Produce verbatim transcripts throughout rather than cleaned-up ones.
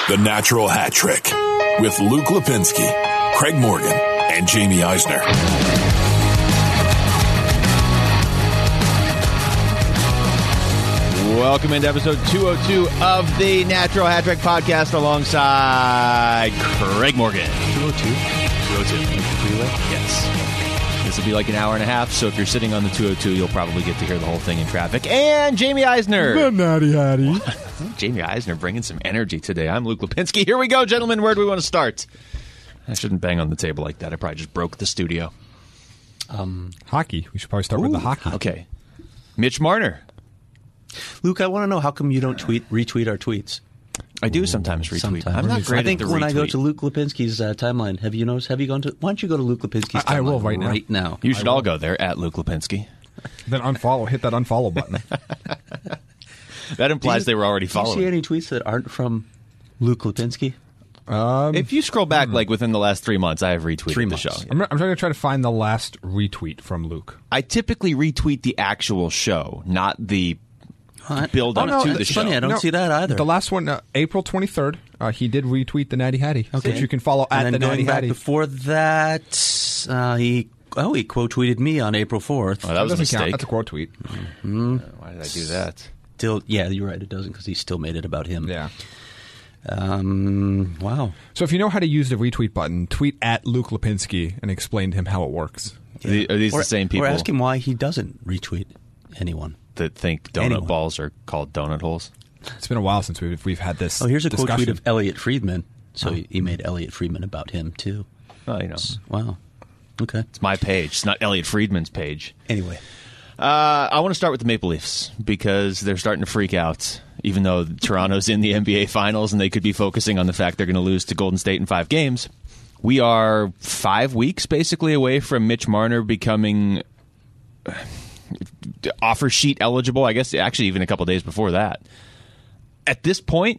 The Natural Hat Trick with Luke Lipinski, Craig Morgan, and Jamie Eisner. Welcome into episode two oh two of the Natural Hat Trick podcast alongside Craig Morgan. two oh two? two oh two. Yes. This will be like an hour and a half, so if you're sitting on the two oh two, you'll probably get to hear the whole thing in traffic. And Jamie Eisner. The Natty Hattie. Jamie Eisner bringing some energy today. I'm Luke Lipinski. Here we go, gentlemen. Where do we want to start? I shouldn't bang on the table like that. I probably just broke the studio. Um, hockey. We should probably start Ooh, with the hockey. Okay. Mitch Marner. Luke, I want to know, how come you don't tweet retweet our tweets? I do sometimes retweet. Sometimes. I'm not great I think at the when retweet. I go to Luke Lipinski's uh, timeline, have you noticed? Have you gone to? Why don't you go to Luke Lipinski's timeline I, I will right now. Right now. You should all go there at Luke Lipinski. Then unfollow. Hit that unfollow button. That implies you, they were already do following. you see any tweets that aren't from Luke Lipinski? Um, If you scroll back, like within the last three months, I have retweeted Three the months. show. I'm, I'm trying to try to find the last retweet from Luke. I typically retweet the actual show, not the Huh? build oh, up no, to the it's show. funny. I don't No, see that either. The last one, uh, April twenty-third, uh, he did retweet the Natty Hattie, Okay. which you can follow and at then the going Natty back Hattie. before that, uh, he oh he quote tweeted me on April fourth. Oh, that was a doesn't count. mistake. That's a quote tweet. Uh, Why did I do that? Still, yeah, you're right. It doesn't because he still made it about him. Yeah. Um. Wow. So if you know how to use the retweet button, tweet at Luke Lipinski and explain to him how it works. Are the- Are these or, the same people Or ask him why he doesn't retweet anyone. that think donut Anyone. balls are called donut holes? It's been a while since we've, we've had this Oh, here's a discussion. quote tweet of Elliot Friedman. So he, he made Elliot Friedman about him too. Well, you know, Wow. Okay. it's my page. It's not Elliot Friedman's page. Anyway, Uh, I want to start with the Maple Leafs because they're starting to freak out, even though Toronto's in the N B A Finals and they could be focusing on the fact they're going to lose to Golden State in five games. We are five weeks basically away from Mitch Marner becoming uh, offer sheet eligible. I guess actually even a couple days before that. At this point,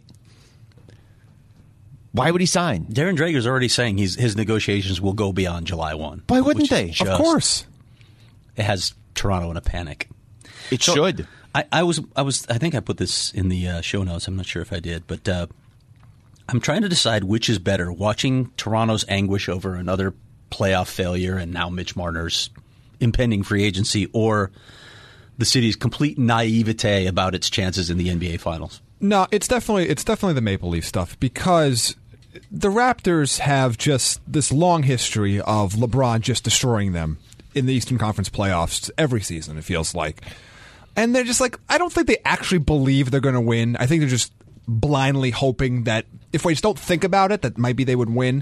why would he sign? Darren Drager's already saying he's, his negotiations will go beyond July first. Why wouldn't which is they? just- Of course. It has Toronto in a panic. It So, should. I, I was, I was, I think I put this in the uh, show notes. I'm not sure if I did, but uh, I'm trying to decide which is better: watching Toronto's anguish over another playoff failure and now Mitch Marner's impending free agency, or the city's complete naivete about its chances in the N B A Finals. No, it's definitely it's definitely the Maple Leaf stuff because the Raptors have just this long history of LeBron just destroying them in the Eastern Conference playoffs every season, it feels like. And they're just like, I don't think they actually believe they're going to win. I think they're just blindly hoping that if we just don't think about it, that maybe they would win.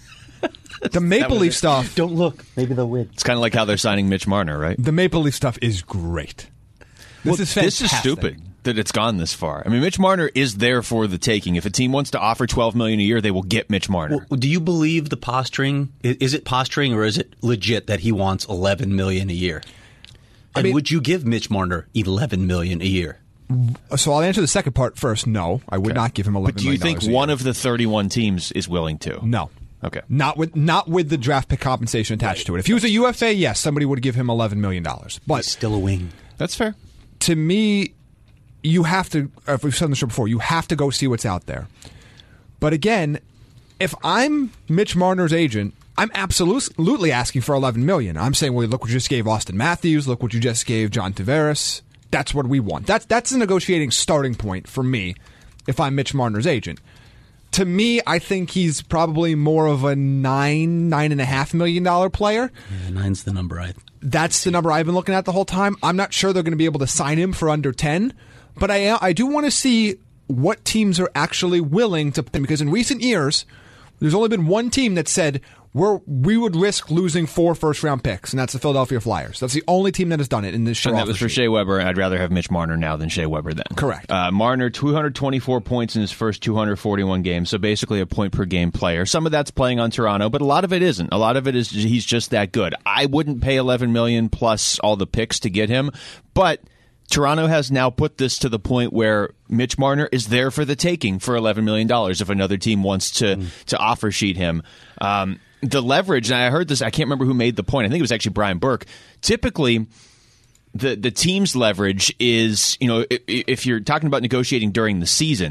The Maple Leaf stuff, Don't look. Maybe they'll win. It's kind of like how they're signing Mitch Marner, right? the Maple Leaf stuff is great. This Well, is this fantastic. is stupid that it's gone this far. I mean, Mitch Marner is there for the taking. If a team wants to offer twelve million dollars a year, they will get Mitch Marner. Well, do you believe the posturing? I- Is it posturing or is it legit that he wants eleven million dollars a year? And mean- would you give Mitch Marner eleven million dollars a year? So I'll answer the second part first. No, I would Okay. not give him eleven But do you million think dollars a one year. of the thirty-one teams is willing to? No. Okay. Not with not with the draft pick compensation attached to it. If he was a U F A, yes, somebody would give him eleven million dollars. But He's still a wing. That's fair. to me, you have to, if we've said on the show before, you have to go see what's out there. But again, if I'm Mitch Marner's agent, I'm absolutely asking for eleven million dollars. I'm saying, well, look what you just gave Austin Matthews. Look what you just gave John Tavares. That's what we want. That's, that's a negotiating starting point for me if I'm Mitch Marner's agent. To me, I think he's probably more of a nine, nine and a half million dollar player. Yeah, nine's the number I. That's the number I've been looking at the whole time. I'm not sure they're going to be able to sign him for under ten, but I I do want to see what teams are actually willing to, because in recent years, there's only been one team that said we're we would risk losing four first round picks, and that's the Philadelphia Flyers. That's the only team that has done it in this show. And that was for Shea Weber, and I'd rather have Mitch Marner now than Shea Weber then. Correct. Uh, Marner, two hundred twenty-four points in his first two hundred forty-one games, so basically a point per game player. Some of that's playing on Toronto, but a lot of it isn't. A lot of it is he's just that good. I wouldn't pay eleven million dollars plus all the picks to get him, but Toronto has now put this to the point where Mitch Marner is there for the taking for eleven million dollars if another team wants to, mm. to offer sheet him. Um, the leverage, and I heard this, I can't remember who made the point. I think it was actually Brian Burke. Typically, the, the team's leverage is, you know, if, if you're talking about negotiating during the season,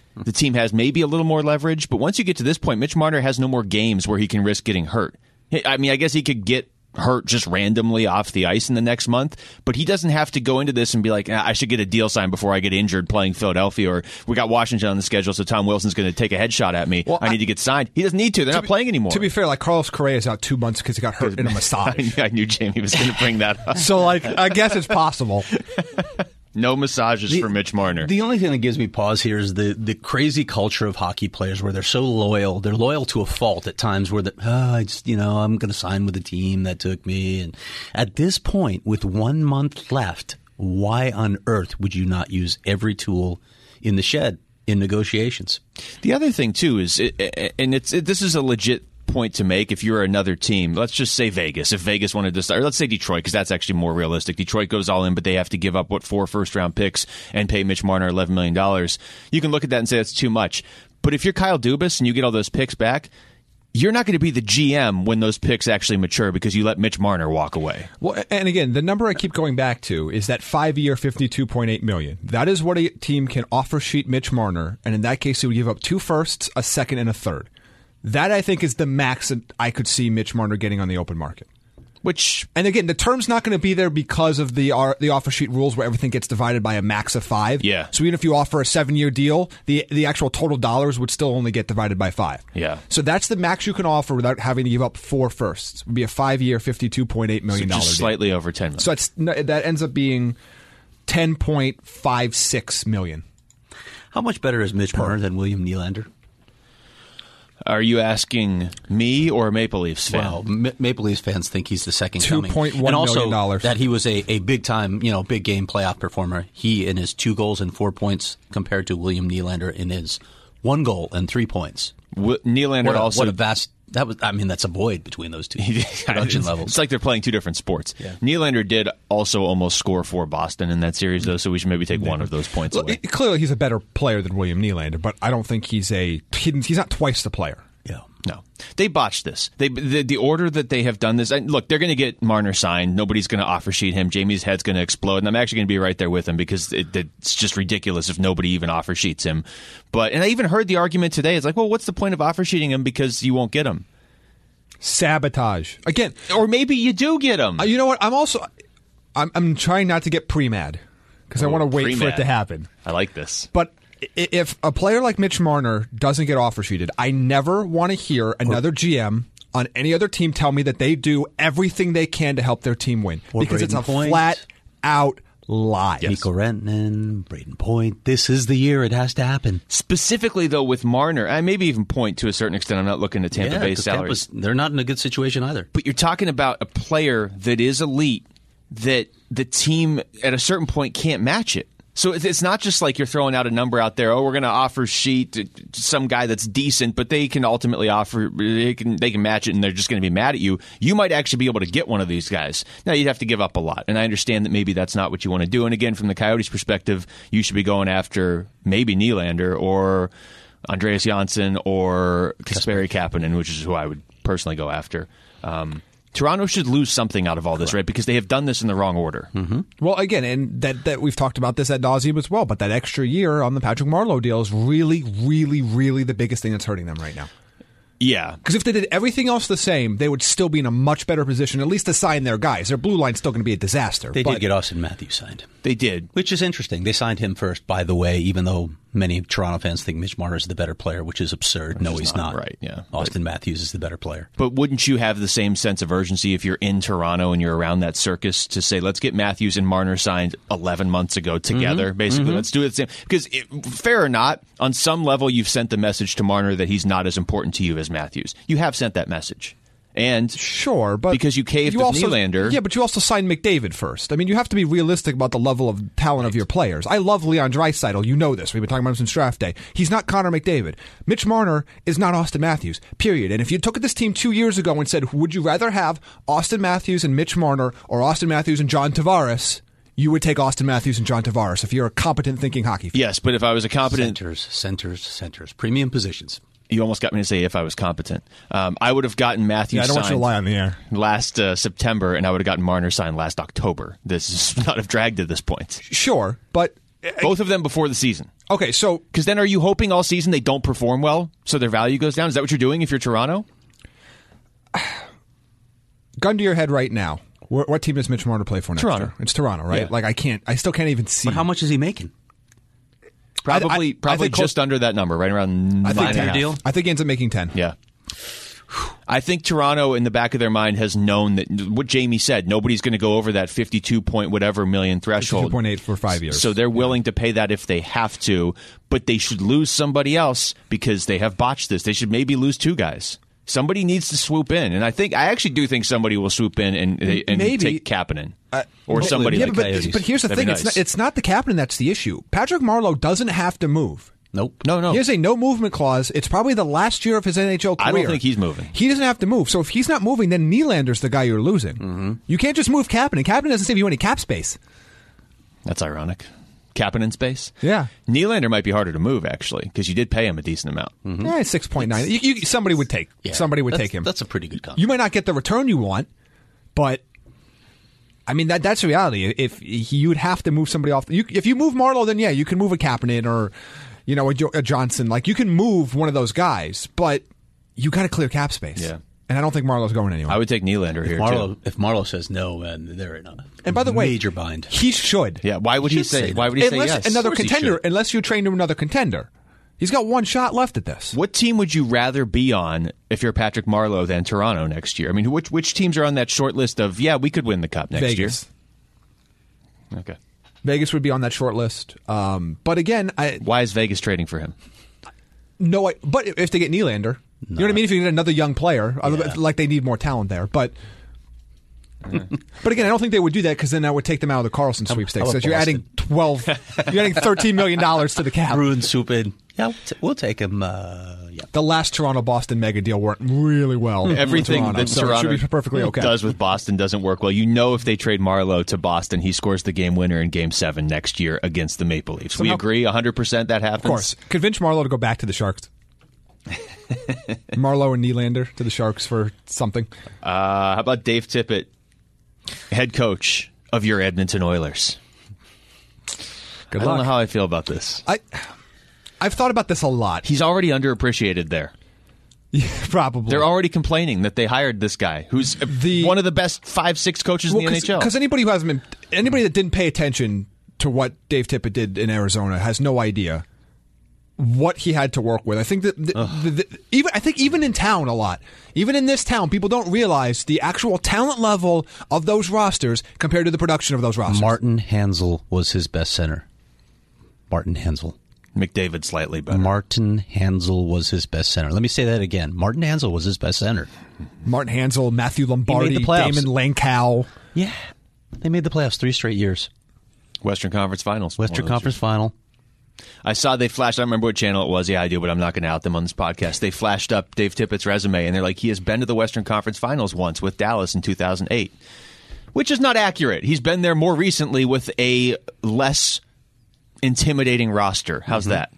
the team has maybe a little more leverage. But once you get to this point, Mitch Marner has no more games where he can risk getting hurt. I mean, I guess he could get hurt just randomly off the ice in the next month, but he doesn't have to go into this and be like, ah, I should get a deal signed before I get injured playing Philadelphia, or we got Washington on the schedule, so Tom Wilson's going to take a headshot at me. Well, I, I need to get signed. He doesn't need to. They're to not be, playing anymore. To be fair, like Carlos Correa is out two months because he got hurt in a massage. I knew Jamie was going to bring that up. So, like, I guess it's possible. No massages the, for Mitch Marner. The only thing that gives me pause here is the, the crazy culture of hockey players where they're so loyal. They're loyal to a fault at times where, the, oh, I just, you know, I'm going to sign with the team that took me. And at this point, with one month left, why on earth would you not use every tool in the shed in negotiations? The other thing, too, is, it, and it's it, this is a legit point to make if you're another team. Let's just say Vegas. If Vegas wanted to start, or let's say Detroit, because that's actually more realistic. Detroit goes all in, but they have to give up, what, four first-round picks and pay Mitch Marner eleven million dollars. You can look at that and say that's too much. But if you're Kyle Dubas and you get all those picks back, you're not going to be the G M when those picks actually mature because you let Mitch Marner walk away. Well, and again, the number I keep going back to is that five-year, fifty-two point eight million dollars. That is what a team can offer sheet Mitch Marner, and in that case, he would give up two firsts, a second, and a third. That, I think, is the max that I could see Mitch Marner getting on the open market. Which, and again, the term's not going to be there because of the uh, the offer sheet rules where everything gets divided by a max of five. Yeah. So even if you offer a seven-year deal, the the actual total dollars would still only get divided by five. Yeah. So that's the max you can offer without having to give up four firsts. It would be a five-year, fifty-two point eight million dollars so just slightly over ten million. So it's, that ends up being ten point five six million dollars. How much better is Mitch Marner than William Nylander? Are you asking me or a Maple Leafs fan? Well, M- Maple Leafs fans think he's the second coming. two point one million dollars. And also that he was a, a big-time, you know, big-game playoff performer. He, in his two goals and four points, compared to William Nylander in his one goal and three points. W- Nylander what a, also... What a vast... That was, I mean, that's a void between those two production it's, levels. It's like they're playing two different sports. Yeah. Nylander did also almost score for Boston in that series, though, so we should maybe take one of those points well, away. It, clearly, he's a better player than William Nylander, but I don't think he's a... He's not twice the player. Yeah. No. They botched this. They the, the order that they have done this, and look, they're going to get Marner signed. Nobody's going to offer sheet him. Jamie's head's going to explode, and I'm actually going to be right there with him because it, it's just ridiculous if nobody even offer sheets him. But and I even heard the argument today. It's like, well, what's the point of offer sheeting him because you won't get him? Sabotage. Again. Or maybe you do get him. Uh, you know what? I'm also... I'm, I'm trying not to get pre-mad because I want to wait pre-mad. for it to happen. I like this. But if a player like Mitch Marner doesn't get offer sheeted, I never want to hear another G M on any other team tell me that they do everything they can to help their team win. Or because Braden it's a Point. flat out lie. Yes. Mikko Rantanen, Braden Point. This is the year it has to happen. Specifically, though, with Marner, I maybe even Point to a certain extent. I'm not looking at Tampa yeah, Bay's salaries. Tampa's, they're not in a good situation either. But you're talking about a player that is elite that the team at a certain point can't match it. So it's not just like you're throwing out a number out there. Oh, we're going to offer sheet to some guy that's decent, but they can ultimately offer. They can they can match it, and they're just going to be mad at you. You might actually be able to get one of these guys. Now you'd have to give up a lot, and I understand that maybe that's not what you want to do. And again, from the Coyotes' perspective, you should be going after maybe Nylander or Andreas Janssen or Kasperi Kapanen, which is who I would personally go after. Um, Toronto should lose something out of all this, right? Because they have done this in the wrong order. Mm-hmm. Well, again, and that, that we've talked about this ad nauseum as well, but that extra year on the Patrick Marleau deal is really, really, really the biggest thing that's hurting them right now. Yeah. Because if they did everything else the same, they would still be in a much better position, at least to sign their guys. Their blue line's still going to be a disaster. They but did get Austin Matthews signed. They did. Which is interesting. They signed him first, by the way, even though many Toronto fans think Mitch Marner is the better player, which is absurd. Which no, is he's not, not. Right, yeah. Austin but, Matthews is the better player. But wouldn't you have the same sense of urgency if you're in Toronto and you're around that circus to say, let's get Matthews and Marner signed eleven months ago together, mm-hmm. basically. Mm-hmm. Let's do it the same. Because it, fair or not, on some level you've sent the message to Marner that he's not as important to you as Matthews. You have sent that message. And sure, but because you caved you with also, Nylander. Yeah, but you also signed McDavid first. I mean, you have to be realistic about the level of talent right. of your players. I love Leon Draisaitl. You know this. We've been talking about him since draft day. He's not Connor McDavid. Mitch Marner is not Austin Matthews, period. And if you took at this team two years ago and said, would you rather have Austin Matthews and Mitch Marner or Austin Matthews and John Tavares, you would take Austin Matthews and John Tavares if you're a competent thinking hockey fan. Yes, but if I was a competent... Centers, centers, centers. Premium positions. You almost got me to say if I was competent. Um, I would have gotten Matthews yeah, I don't signed want you to lie on the air. last uh, September, and I would have gotten Marner signed last October. This is not have dragged to this point. Sure, but... Both of them before the season. Okay, so Because then are you hoping all season they don't perform well so their value goes down? Is that what you're doing if you're Toronto? gun to your head right now. What, what team does Mitch Marner play for next Toronto. year? It's Toronto, right? Yeah. Like I can't, I still can't even see. But how much is he making? Probably I- I probably think close- just under that number, right around I nine think and a ten. half. deal? I think he ends up making ten. Yeah. I think Toronto, in the back of their mind, has known that what Jamie said. Nobody's going to go over that fifty-two point whatever million threshold. two point eight for five years. So they're willing to pay that if they have to, but they should lose somebody else because they have botched this. They should maybe lose two guys. Somebody needs to swoop in, and I think I actually do think somebody will swoop in and, and Maybe. take Kapanen Uh, or somebody yeah, like but, Coyotes. but here's the That'd thing: be it's nice. not, it's not the captain that's the issue. Patrick Marleau doesn't have to move. Nope. no, no. He has a no movement clause. It's probably the last year of his N H L career. I don't think he's moving. He doesn't have to move. So if he's not moving, then Nylander's the guy you're losing. Mm-hmm. You can't just move Kapanen. Kapanen doesn't save you any cap space. That's ironic. Kapanen space. Yeah. Nylander might be harder to move actually because you did pay him a decent amount. Mm-hmm. Yeah, six point nine. You, you, somebody would take. Yeah, somebody would that's- take him. That's a pretty good contract. You might not get the return you want, but I mean that that's reality. If you'd have to move somebody off, you, if you move Marleau, then yeah, you can move a Kapanen or you know a, Jo- a Johnson. Like you can move one of those guys, but you got to clear cap space. Yeah. And I don't think Marlowe's going anywhere. I would take Nylander here Marlowe, too. if Marlowe says no, man, they're in a and by the way, major bind. He should. Yeah. Why would he, He should say? say Why that. would he unless say yes? another Of course he contender, should. unless you train to another contender. He's got one shot left at this. What team would you rather be on if you're Patrick Marleau than Toronto next year? I mean, which which teams are on that short list of yeah, we could win the cup next Vegas. year? Okay. Vegas would be on that short list. Um, but again, I Why is Vegas trading for him? no. I, but if they get Nylander, you know what I mean. If you get another young player, Yeah. like they need more talent there. But but again, I don't think they would do that because then that would take them out of the Carlson sweepstakes. how So about you're adding twelve, you're adding thirteen million dollars to the cap. Bruin swoop in. Yeah, we'll, t- we'll take him. Uh, yeah. The last Toronto Boston mega deal worked really well. for Everything Toronto, that so Toronto it should be perfectly okay. does with Boston doesn't work well. You know, if they trade Marleau to Boston, he scores the game winner in Game Seven next year against the Maple Leafs. we Somehow- agree, one hundred percent that happens. Of course, convince Marleau to go back to the Sharks. Marleau and Nylander to the Sharks for something. Uh, how about Dave Tippett, head coach of your Edmonton Oilers? Good I luck. don't know how I feel about this. I, I've thought about this a lot. He's already underappreciated there. Probably. They're already complaining that they hired this guy, who's The- one of the best five, six coaches in the N H L. Because anybody who hasn't been, anybody that didn't pay attention to what Dave Tippett did in Arizona has no idea what he had to work with. I think that the, the, the, even I think even in town a lot, even in this town, people don't realize the actual talent level of those rosters compared to the production of those rosters. Martin Hansel was his best center. Martin Hansel. McDavid slightly better. Martin Hansel was his best center. Let me say that again. Martin Hansel was his best center. Martin Hansel, Matthew Lombardi, the playoffs. Damon Langkow. Yeah. They made the playoffs three straight years. Western Conference Finals. Western One of those Conference years. Final. I saw they flashed. I don't remember what channel it was. Yeah, I do, but I'm not going to out them on this podcast. They flashed up Dave Tippett's resume, and they're like, he has been to the Western Conference Finals once with Dallas in two thousand eight, which is not accurate. He's been there more recently with a less intimidating roster. How's that?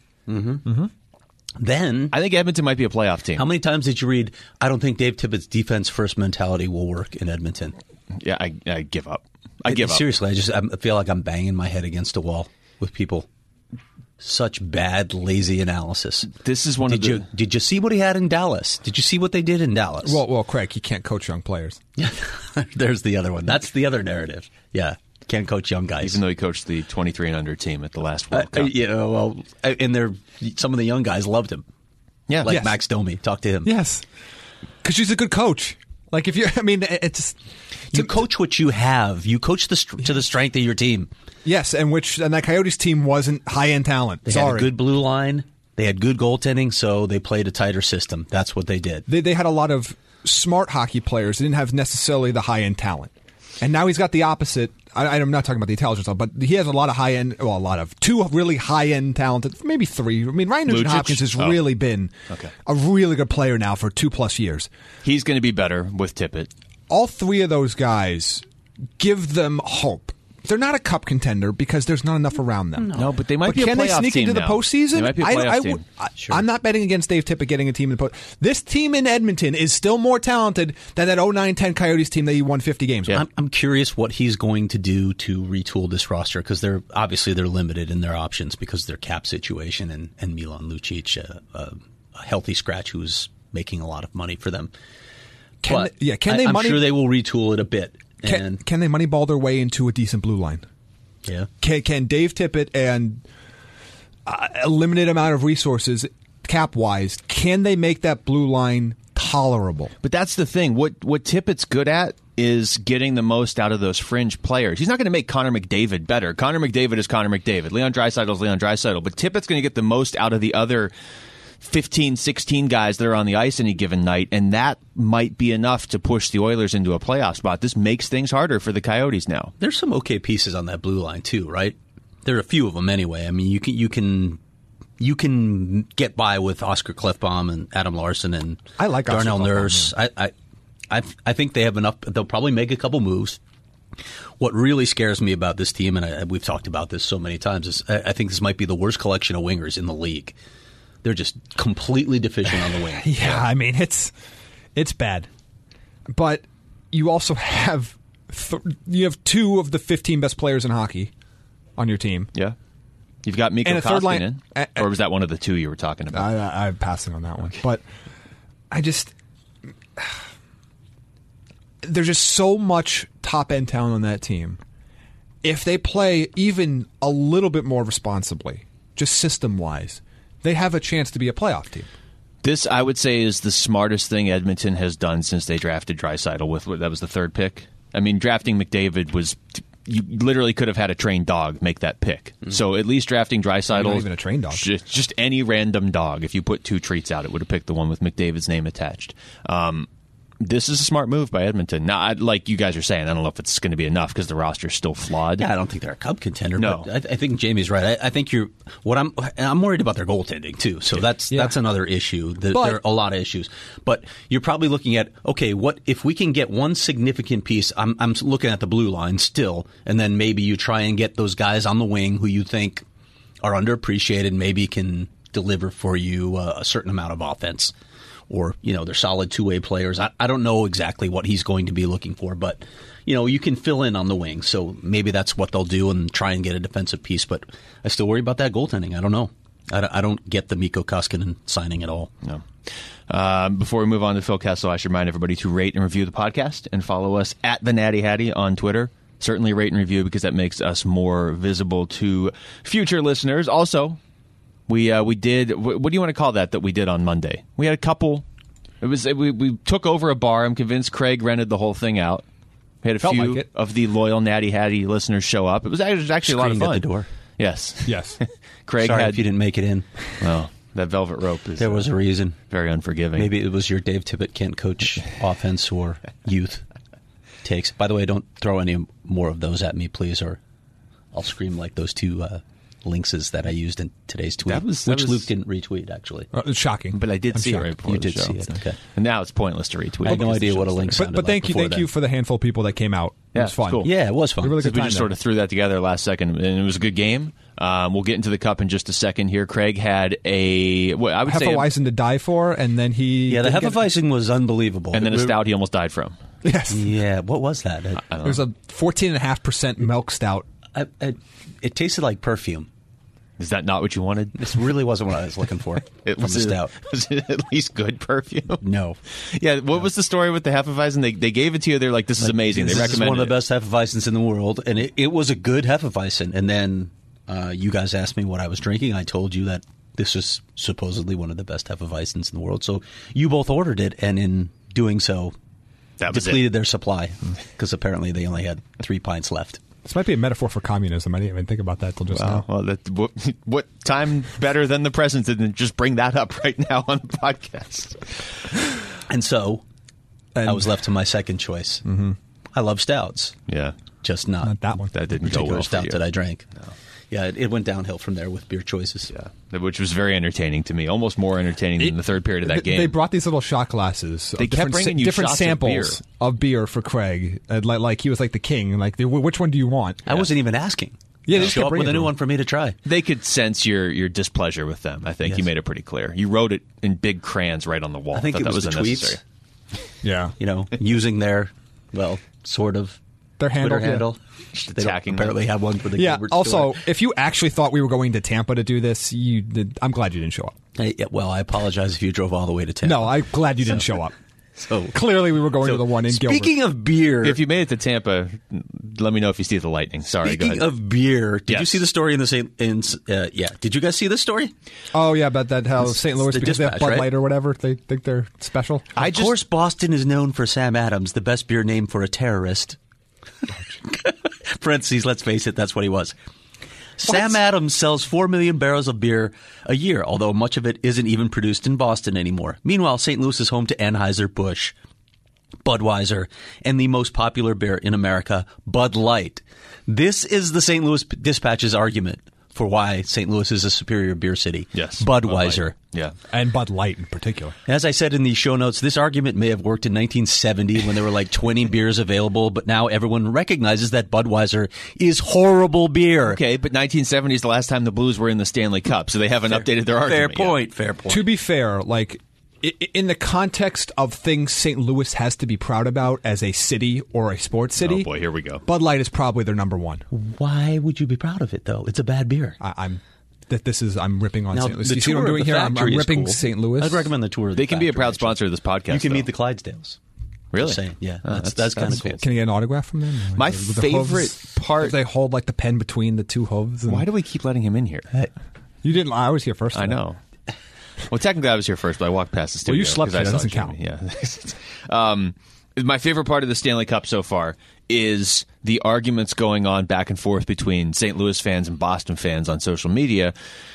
Then, I think Edmonton might be a playoff team. how many times did you read, I don't think Dave Tippett's defense first mentality will work in Edmonton? Yeah, I, I give up. I give up. Seriously, I just I feel like I'm banging my head against a wall with people. Such bad, lazy analysis. This is one Did of the. you did you see what he had in Dallas? Did you see what they did in Dallas? Well, well, Craig, he can't coach young players. Yeah, there's the other one. That's the other narrative. Yeah, can't coach young guys. Even though he coached the twenty-three and under team at the last Uh, World Cup. you know, well, uh, and they're some of the young guys loved him. yeah, Like Yes. Max Domi, talk to him. Yes, because she's a good coach. Like if you, I mean, it's You coach what you have. You coach the str- to the strength of your team. yes, and which and that Coyotes team wasn't high end talent. They Sorry, had a good blue line. They had good goaltending, so they played a tighter system. That's what they did. they they had a lot of smart hockey players. They didn't have necessarily the high end talent, and now he's got the opposite. I, I'm not talking about the intelligence, level, but he has a lot of high end. Well, a lot of two really high end talented, maybe three. I mean, Ryan Nugent Lucic? Hopkins has Oh. really been Okay. a really good player now for two plus years. He's going to be better with Tippett. All three of those guys give them hope. they're not a cup contender because there's not enough around them. No, no but they might but be a can playoff they sneak team into now. the postseason? They might be a playoff I, I, team. I, sure. I'm not betting against Dave Tippett getting a team in the post. This team in Edmonton is still more talented than that oh nine ten Coyotes team that he won fifty games with. I'm, I'm curious what he's going to do to retool this roster because they're obviously they're limited in their options because of their cap situation and, and Milan Lucic, uh, uh, a healthy scratch who's making a lot of money for them. Can But they, yeah, can they I, I'm money? sure they will retool it a bit. Can, And can they moneyball their way into a decent blue line? yeah, Can, can Dave Tippett and uh, a limited amount of resources, cap wise, can they make that blue line tolerable? But that's the thing. What what Tippett's good at is getting the most out of those fringe players. He's not going to make Connor McDavid better. Connor McDavid is Connor McDavid. Leon Draisaitl is Leon Draisaitl. But Tippett's going to get the most out of the other fifteen, sixteen guys that are on the ice any given night, and that might be enough to push the Oilers into a playoff spot. This makes things harder for the Coyotes now. there's some okay pieces on that blue line too, right? There are a few of them anyway. I mean, you can you can you can get by with Oscar Klefbom and Adam Larson and I like Oscar Darnell Klefbom, Nurse. I, I I I think they have enough. They'll probably make a couple moves. What really scares me about this team, and I, we've talked about this so many times, is I, I think this might be the worst collection of wingers in the league. They're just completely deficient on the wing. Yeah, I mean it's it's bad, but you also have th- you have two of the fifteen best players in hockey on your team. Yeah. You've got Mikko And a third line- Koskinen. uh, uh, or was that one of the two you were talking about? I, I'm passing on that one, but I just there's just so much top end talent on that team. If they play even a little bit more responsibly, just system wise, they have a chance to be a playoff team. This, I would say, is the smartest thing Edmonton has done since they drafted Draisaitl. With that was the third pick. I mean, drafting McDavid was you literally could have had a trained dog make that pick. Mm-hmm. So at least drafting Draisaitl, not even a trained dog, just, just any random dog. If you put two treats out, it would have picked the one with McDavid's name attached. Um, This is a smart move by Edmonton. Now, I, like you guys are saying, I don't know if it's going to be enough because the roster's still flawed. Yeah, I don't think they're a cup contender. No. But I, I think Jamie's right. I, I think you're. What I'm. I'm worried about their goaltending too. So that's Yeah. that's another issue. The, But- there are a lot of issues. But you're probably looking at okay, what if we can get one significant piece? I'm I'm looking at the blue line still, and then maybe you try and get those guys on the wing who you think are underappreciated, maybe can deliver for you uh, a certain amount of offense. Or, you know, they're solid two-way players. I, I don't know exactly what he's going to be looking for, but, you know, you can fill in on the wing. So maybe that's what they'll do and try and get a defensive piece. But I still worry about that goaltending. I don't know. I, I don't get the Mikko Koskinen signing at all. No. Um, before we move on to Phil Kessel, I should remind everybody to rate and review the podcast and follow us at the Natty Hattie on Twitter. Certainly rate and review because that makes us more visible to future listeners. Also, We uh, we did. What do you want to call that? That we did on Monday. We had a couple. It was we we took over a bar. I'm convinced Craig rented the whole thing out. We had a Felt few like it. of the loyal Natty Hattie listeners show up. It was actually, it was actually a lot of Screened fun. at the door. Yes, Yes. Craig Sorry had. if you didn't make it in. Well, that velvet rope is There was a reason. very unforgiving. Maybe it was your Dave Tippett can't coach offense or youth takes. By the way, don't throw any more of those at me, please, or I'll scream like those two uh, links that I used in today's tweet, That was- that which was- Luke didn't retweet, actually. Uh, it's shocking. But I did I'm see shocked. it right before You the did show. see it, okay. And now it's pointless to retweet. I had no because the idea what a show's link started. But, but thank you, before thank then. you for the handful of people that came out. Yeah, it was fun. it's cool. Yeah, it was fun. We really good we time just there. sort of threw that together last second, and it was a good game. Um, we'll get into the cup in just a second here. Craig had a, what I would say, a- Hefeweizen to die for, and then he Yeah, the didn't get- Hefeweizen was unbelievable. and then a It- stout he almost died from. Yes, Yeah, what was that? It, it was a fourteen and a half percent milk stout. I, I, it tasted like perfume. Is that not what you wanted? This really wasn't what I was looking for. It from was, the it, stout. was it at least good perfume? No. Yeah, what was the story with the Hefeweizen? They they gave it to you. They're like, this is amazing. This they is recommended one of the it. best Hefeweizens in the world, and it, it was a good Hefeweizen. And then uh, you guys asked me what I was drinking. I told you that this is supposedly one of the best Hefeweizens in the world. So you both ordered it, and in doing so, That was depleted it. their supply because apparently they only had three pints left. This might be a metaphor for communism. I didn't even think about that till just Wow. now. Well, that, what, what time better than the present than just bring that up right now on the podcast? And so And I was left to my second choice. Mm-hmm. I love stouts, Yeah, just not, Not that one. that didn't go particular well for stout you. that I drank. Yeah, it, it went downhill from there with beer choices. Yeah, which was very entertaining to me, almost more entertaining than the third period of that game. They brought these little shot glasses. They of kept different, bringing you different shots samples of beer. of beer for Craig. And like, like he was like the king. Like, which one do you want? I wasn't even asking. Yeah, they just show kept up with bringing a new them. one for me to try. They could sense your, your displeasure with them. I think Yes. you made it pretty clear. You wrote it in big crayons right on the wall. I think Thought it that was, was the unnecessary. tweets. Yeah, You know, using their, well, sort of Their handle, Twitter yeah. handle. They don't Attacking apparently them. have one for the yeah. Gilbert Also, store. if you actually thought we were going to Tampa to do this, you did. I'm glad you didn't show up. Hey, yeah, well, I apologize if you drove all the way to Tampa. No, I'm glad you didn't show up. So Clearly, we were going so to the one in Gilbert. Speaking of beer, If you made it to Tampa, let me know if you see the Lightning. Sorry, go speaking ahead. of beer, did you Yes. see the story in the Saint? In, uh, yeah, did you guys see this story? Oh yeah, about that how Saint Louis the because they have Dispatch, Bud right? Light or whatever. They think they're special. I of just course, Boston is known for Sam Adams, the best beer name for a terrorist. Parentheses, let's face it, that's what he was. Sam Adams sells four million barrels of beer a year, although much of it isn't even produced in Boston anymore. Meanwhile, Saint Louis is home to Anheuser-Busch, Budweiser, and the most popular beer in America, Bud Light. This is the Saint Louis Dispatch's argument for why Saint Louis is a superior beer city. yes, Budweiser. Yeah. And Bud Light in particular. As I said in the show notes, this argument may have worked in nineteen seventy when there were like twenty beers available, but now everyone recognizes that Budweiser is horrible beer. Okay, but nineteen seventy is the last time the Blues were in the Stanley Cup, so they haven't updated their Fair argument yet. point, fair point. To be fair, like i- i- in the context of things Saint Louis has to be proud about as a city or a sports city, Oh boy, here we go. Bud Light is probably their number one. Why would you be proud of it, though? It's a bad beer. I, I'm that this is I'm ripping on Now, Saint Louis. the You see what I'm tour of doing the here? I'm, factory I'm is ripping cool. Saint Louis. I'd recommend the tour of the They can be a factory, proud actually. sponsor of this podcast. You can though. meet the Clydesdales. Really? Just saying, yeah. Oh, that's that's, kind of cool. Can I get an autograph from them? My With the favorite hooves? part- If they hold like the pen between the two hooves. and- Why do we keep letting him in here? you didn't? I was here first. I today. know. Well, technically, I was here first, but I walked past the studio. Well, you slept 'cause I here. That saw doesn't Jimmy. Yeah. um, my favorite part of the Stanley Cup so far is the arguments going on back and forth between Saint Louis fans and Boston fans on social media.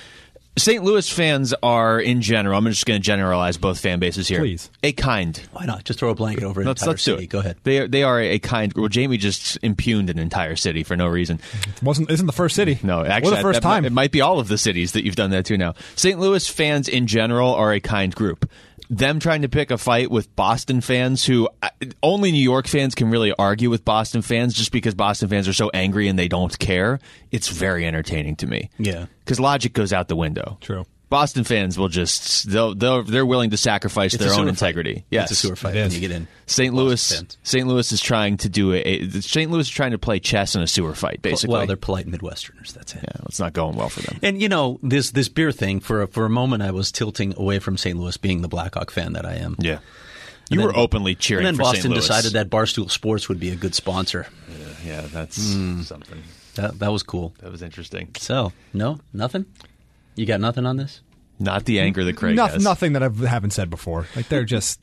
Saint Louis fans are, in general, I'm just going to generalize both fan bases here. Please. A kind. Why not? Just throw a blanket over an Let's, entire let's do city. it. Go ahead. They are, they are a kind. Well, Jamie just impugned an entire city for no reason. Wasn't isn't the first city? No, actually, or the first that- time. It might be all of the cities that you've done that to now. Saint Louis fans in general are a kind group. Them trying to pick a fight with Boston fans who uh, only New York fans can really argue with Boston fans just because Boston fans are so angry and they don't care. It's very entertaining to me. Yeah. Because logic goes out the window. True. Boston fans will just they'll, they'll they're willing to sacrifice It's their a own sewer integrity. Fight. Yes, It's a sewer fight It when is. you get in. Saint Boston Louis fans. Saint Louis is trying to do a, a Saint Louis is trying to play chess in a sewer fight. Basically, Well, they're polite Midwesterners. That's it. yeah, it's not going well for them. And you know this this beer thing. For a, for a moment, I was tilting away from Saint Louis, being the Blackhawk fan that I am. Yeah, And you were then- openly cheering And then for Boston Saint Louis. decided that Barstool Sports would be a good sponsor. Yeah, that's something. That that was cool. That was interesting. So no, nothing. You got nothing on this? Not the anger that Craig Noth- has. Nothing that I haven't said before. Like they're just.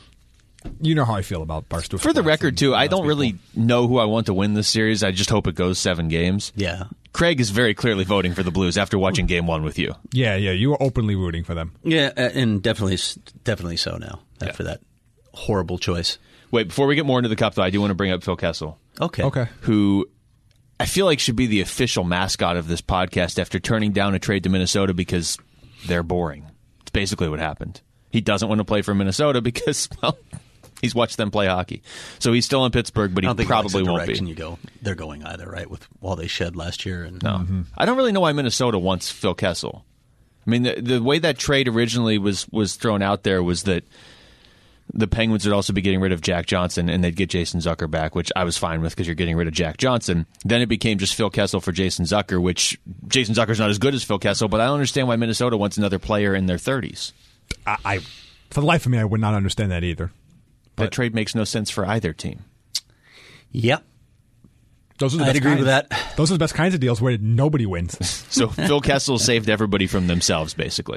You know how I feel about Barstool. For the Sports record, and too, I lots don't of really people. know who I want to win this series. I just hope it goes seven games. Yeah. Craig is very clearly voting for the Blues after watching Game One with you. Yeah, yeah. You were openly rooting for them. Yeah, uh, and definitely, definitely so now after Yeah. that horrible choice. Wait, before we get more into the Cup, though, I do want to bring up Phil Kessel, Okay. Okay. who I feel like should be the official mascot of this podcast after turning down a trade to Minnesota because they're boring. It's basically what happened. He doesn't want to play for Minnesota because, well, he's watched them play hockey. So he's still in Pittsburgh, but I he don't think probably that's the won't direction be. you go. They're going either, right? With all they shed last year, and No. I don't really know why Minnesota wants Phil Kessel. I mean, the, the way that trade originally was, was thrown out there was that the Penguins would also be getting rid of Jack Johnson, and they'd get Jason Zucker back, which I was fine with because you're getting rid of Jack Johnson. Then it became just Phil Kessel for Jason Zucker, which Jason Zucker's not as good as Phil Kessel, but I don't understand why Minnesota wants another player in their thirties. I, I, for the life of me, I would not understand that either. That trade makes no sense for either team. yep, Those are the I'd best agree with kinds- that. Those are the best kinds of deals where nobody wins. So Phil Kessel saved everybody from themselves, basically.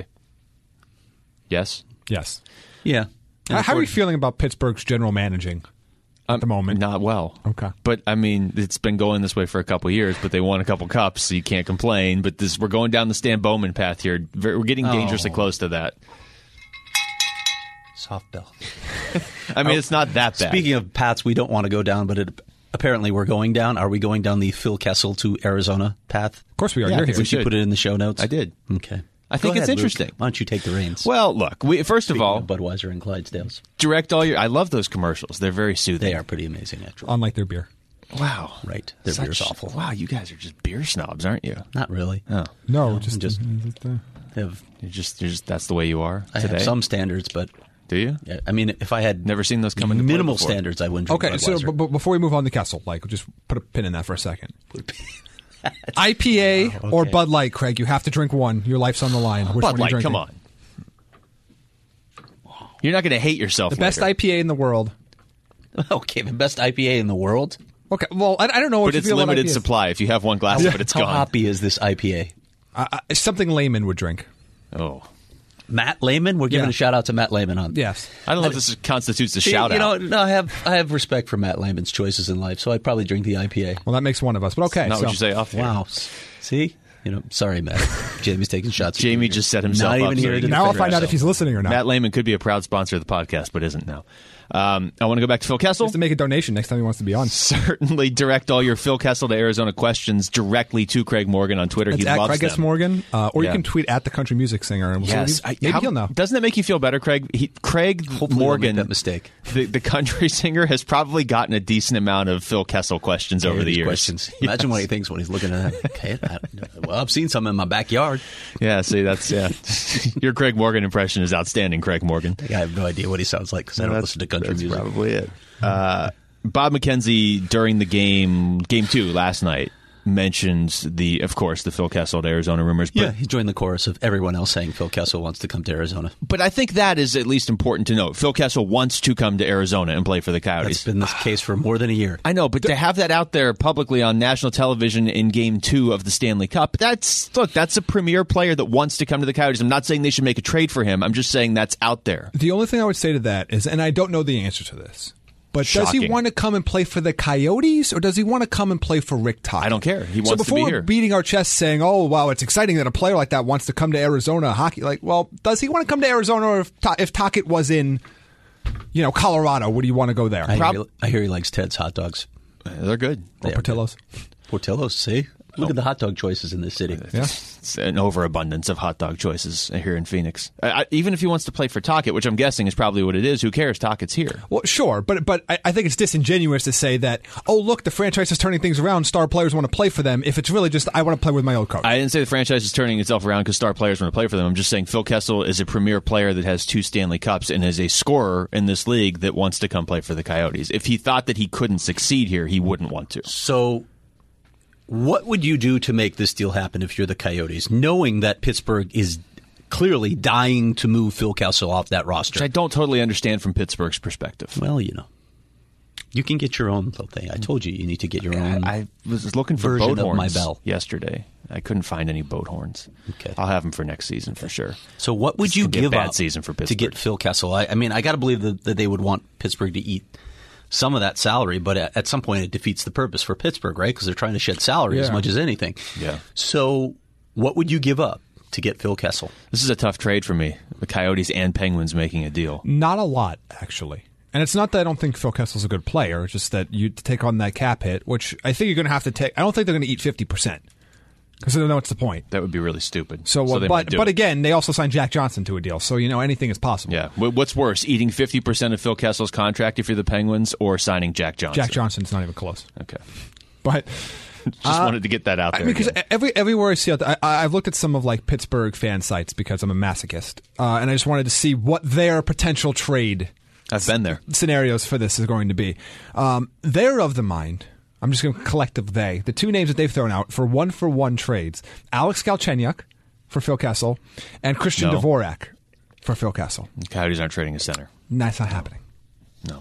Yes? Yes. Yeah. How, how are you feeling about Pittsburgh's general managing at the moment? Not well. Okay. But, I mean, it's been going this way for a couple of years, but they won a couple cups, so you can't complain. But this, we're going down the Stan Bowman path here. We're getting dangerously Oh. close to that. Soft bell. I mean, it's not that bad. Speaking of paths we don't want to go down, but it apparently we're going down. Are we going down the Phil Kessel to Arizona path? Of course we are. Yeah, You're I think here. We should put it in the show notes. I did. Okay. I think Go it's ahead, Luke. interesting. Why don't you take the reins? Well, look, we, first Speaking of all, of Budweiser and Clydesdales. direct all your. I love those commercials. They're very soothing. They are pretty amazing, actually. Unlike their beer. Wow. Right. Their Such- beer's awful. Wow, you guys are just beer snobs, aren't you? Not really. Oh, No, just just- just. I have, you're just, you're just that's the way you are I today. have some standards, but Do you? yeah, I mean, if I had Never seen those come into play minimal before. standards, I wouldn't drink Okay, so Budweiser. b- b- before we move on to Kessel, like, just put a pin in that for a second. I P A Wow, or okay. Bud Light, Craig? You have to drink one. Your life's on the line. Which Bud one are you Light, drinking? come on. You're not going to hate yourself. The best later. I P A in the world. Okay, the best I P A in the world. Okay, well, I, I don't know what But you it's feel about limited I P As. supply. If you have one glass of it, it's How gone. hoppy is this I P A? Uh, uh, something layman would drink. Oh, Matt Lehman. We're giving Yeah. a shout out to Matt Lehman on. Yes. I don't know if this is- constitutes a See, shout you out. know, no, I have I have respect for Matt Lehman's choices in life, so I'd probably drink the I P A. Well, that makes one of us. But okay. Not so, what you say off here. Wow. See, you know, sorry, Matt. Jamie's taking shots. at Jamie you. just set himself Not up even so here he to can Now I'll defend find out if himself. he's listening or not. Matt Lehman could be a proud sponsor of the podcast, but isn't now. Um, I want to go back to Phil Kessel. Just to make a donation next time he wants to be on. Certainly direct all your Phil Kessel to Arizona questions directly to Craig Morgan on Twitter. It's he at loves Craig S. them. Morgan, uh, or Yeah. you can tweet at the country music singer, and we'll Yes, see I, what he- maybe how- he'll know. Doesn't that make you feel better, Craig? He, Craig Hopefully we'll Morgan, make that mistake. The, the country singer, has probably gotten a decent amount of Phil Kessel questions over the These years. questions. Imagine what he thinks when he's looking at that. Okay, I, well, I've seen some in my backyard. Yeah, see, that's yeah. Your Craig Morgan impression is outstanding, Craig Morgan. I have no idea what he sounds like because I don't That's- listen to country that's music. Probably it. Uh, Bob McKenzie during the game, game two last night, mentioned the, of course, the Phil Kessel to Arizona rumors. But, Yeah, he joined the chorus of everyone else saying Phil Kessel wants to come to Arizona. but I think that is at least important to note. Phil Kessel wants to come to Arizona and play for the That's Coyotes. been the case for more than a year. I know, but to have that out there publicly on national television in Game Two of the Stanley Cup, that's look, that's a premier player that wants to come to the Coyotes. I'm not saying they should make a trade for him. I'm just saying that's out there. The only thing I would say to that is, and I don't know the answer to this, but does he Shocking. want to come and play for the Coyotes, or does he want to come and play for Rick Tocchet? I don't care. He so wants to before be we're here. beating our chests saying, "Oh, wow, it's exciting that a player like that wants to come to Arizona hockey," like, well, does he want to come to Arizona, or if Ta- if Tocchet was in, you know, Colorado, would he want to go there? I, Prob- hear, I hear he likes Ted's hot dogs. They're good. Or Portillo's? Portillo's, see? Look at the hot dog choices in this city. Yeah. It's an overabundance of hot dog choices here in Phoenix. I, I, even if he wants to play for Tocchet, which I'm guessing is probably what it is, who cares? Tocchet's here. Well, sure, but but I, I think it's disingenuous to say that, oh, look, the franchise is turning things around. Star players want to play for them. If it's really just, I want to play with my old coach. I didn't say the franchise is turning itself around because star players want to play for them. I'm just saying Phil Kessel is a premier player that has two Stanley Cups and is a scorer in this league that wants to come play for the Coyotes. If he thought that he couldn't succeed here, he wouldn't want to. So, what would you do to make this deal happen if you're the Coyotes, knowing that Pittsburgh is clearly dying to move Phil Kessel off that roster? Which I don't totally understand from Pittsburgh's perspective. Well, you know. You can get your own little thing. I told you you need to get your own. I was looking for version boat of horns my bell. yesterday. I couldn't find any boat horns. Okay. I'll have them for next season for sure. So what would This you could be a give bad up season for to Pittsburgh. get Phil Kessel? I, I mean, I got to believe that, that they would want Pittsburgh to eat some of that salary, but at, at some point it defeats the purpose for Pittsburgh, right? Because they're trying to shed salary as Yeah. much as anything. Yeah. So what would you give up to get Phil Kessel? This is a tough trade for me. The Coyotes and Penguins making a deal. Not a lot, actually. And it's not that I don't think Phil Kessel's a good player. It's just that you take on that cap hit, which I think you're going to have to take. I don't think they're going to eat fifty percent because I don't know what's the point. That would be really stupid. So, uh, they but might do but it. again, they also signed Jack Johnson to a deal, so you know anything is possible. Yeah. Wh- What's worse, eating fifty percent of Phil Kessel's contract if you're the Penguins or signing Jack Johnson? Jack Johnson's not even close. Okay. But Just wanted to get that out I there. mean, because again. every everywhere I see it, I, I've looked at some of like Pittsburgh fan sites because I'm a masochist, uh, and I just wanted to see what their potential trade I've been there. scenarios for this is going to be. Um, they're of the mind. I'm just going to collective they. The two names that they've thrown out for one for one trades: Alex Galchenyuk for Phil Kessel and Christian No. Dvorak for Phil Kessel. The Coyotes aren't trading a center. And that's not happening. No.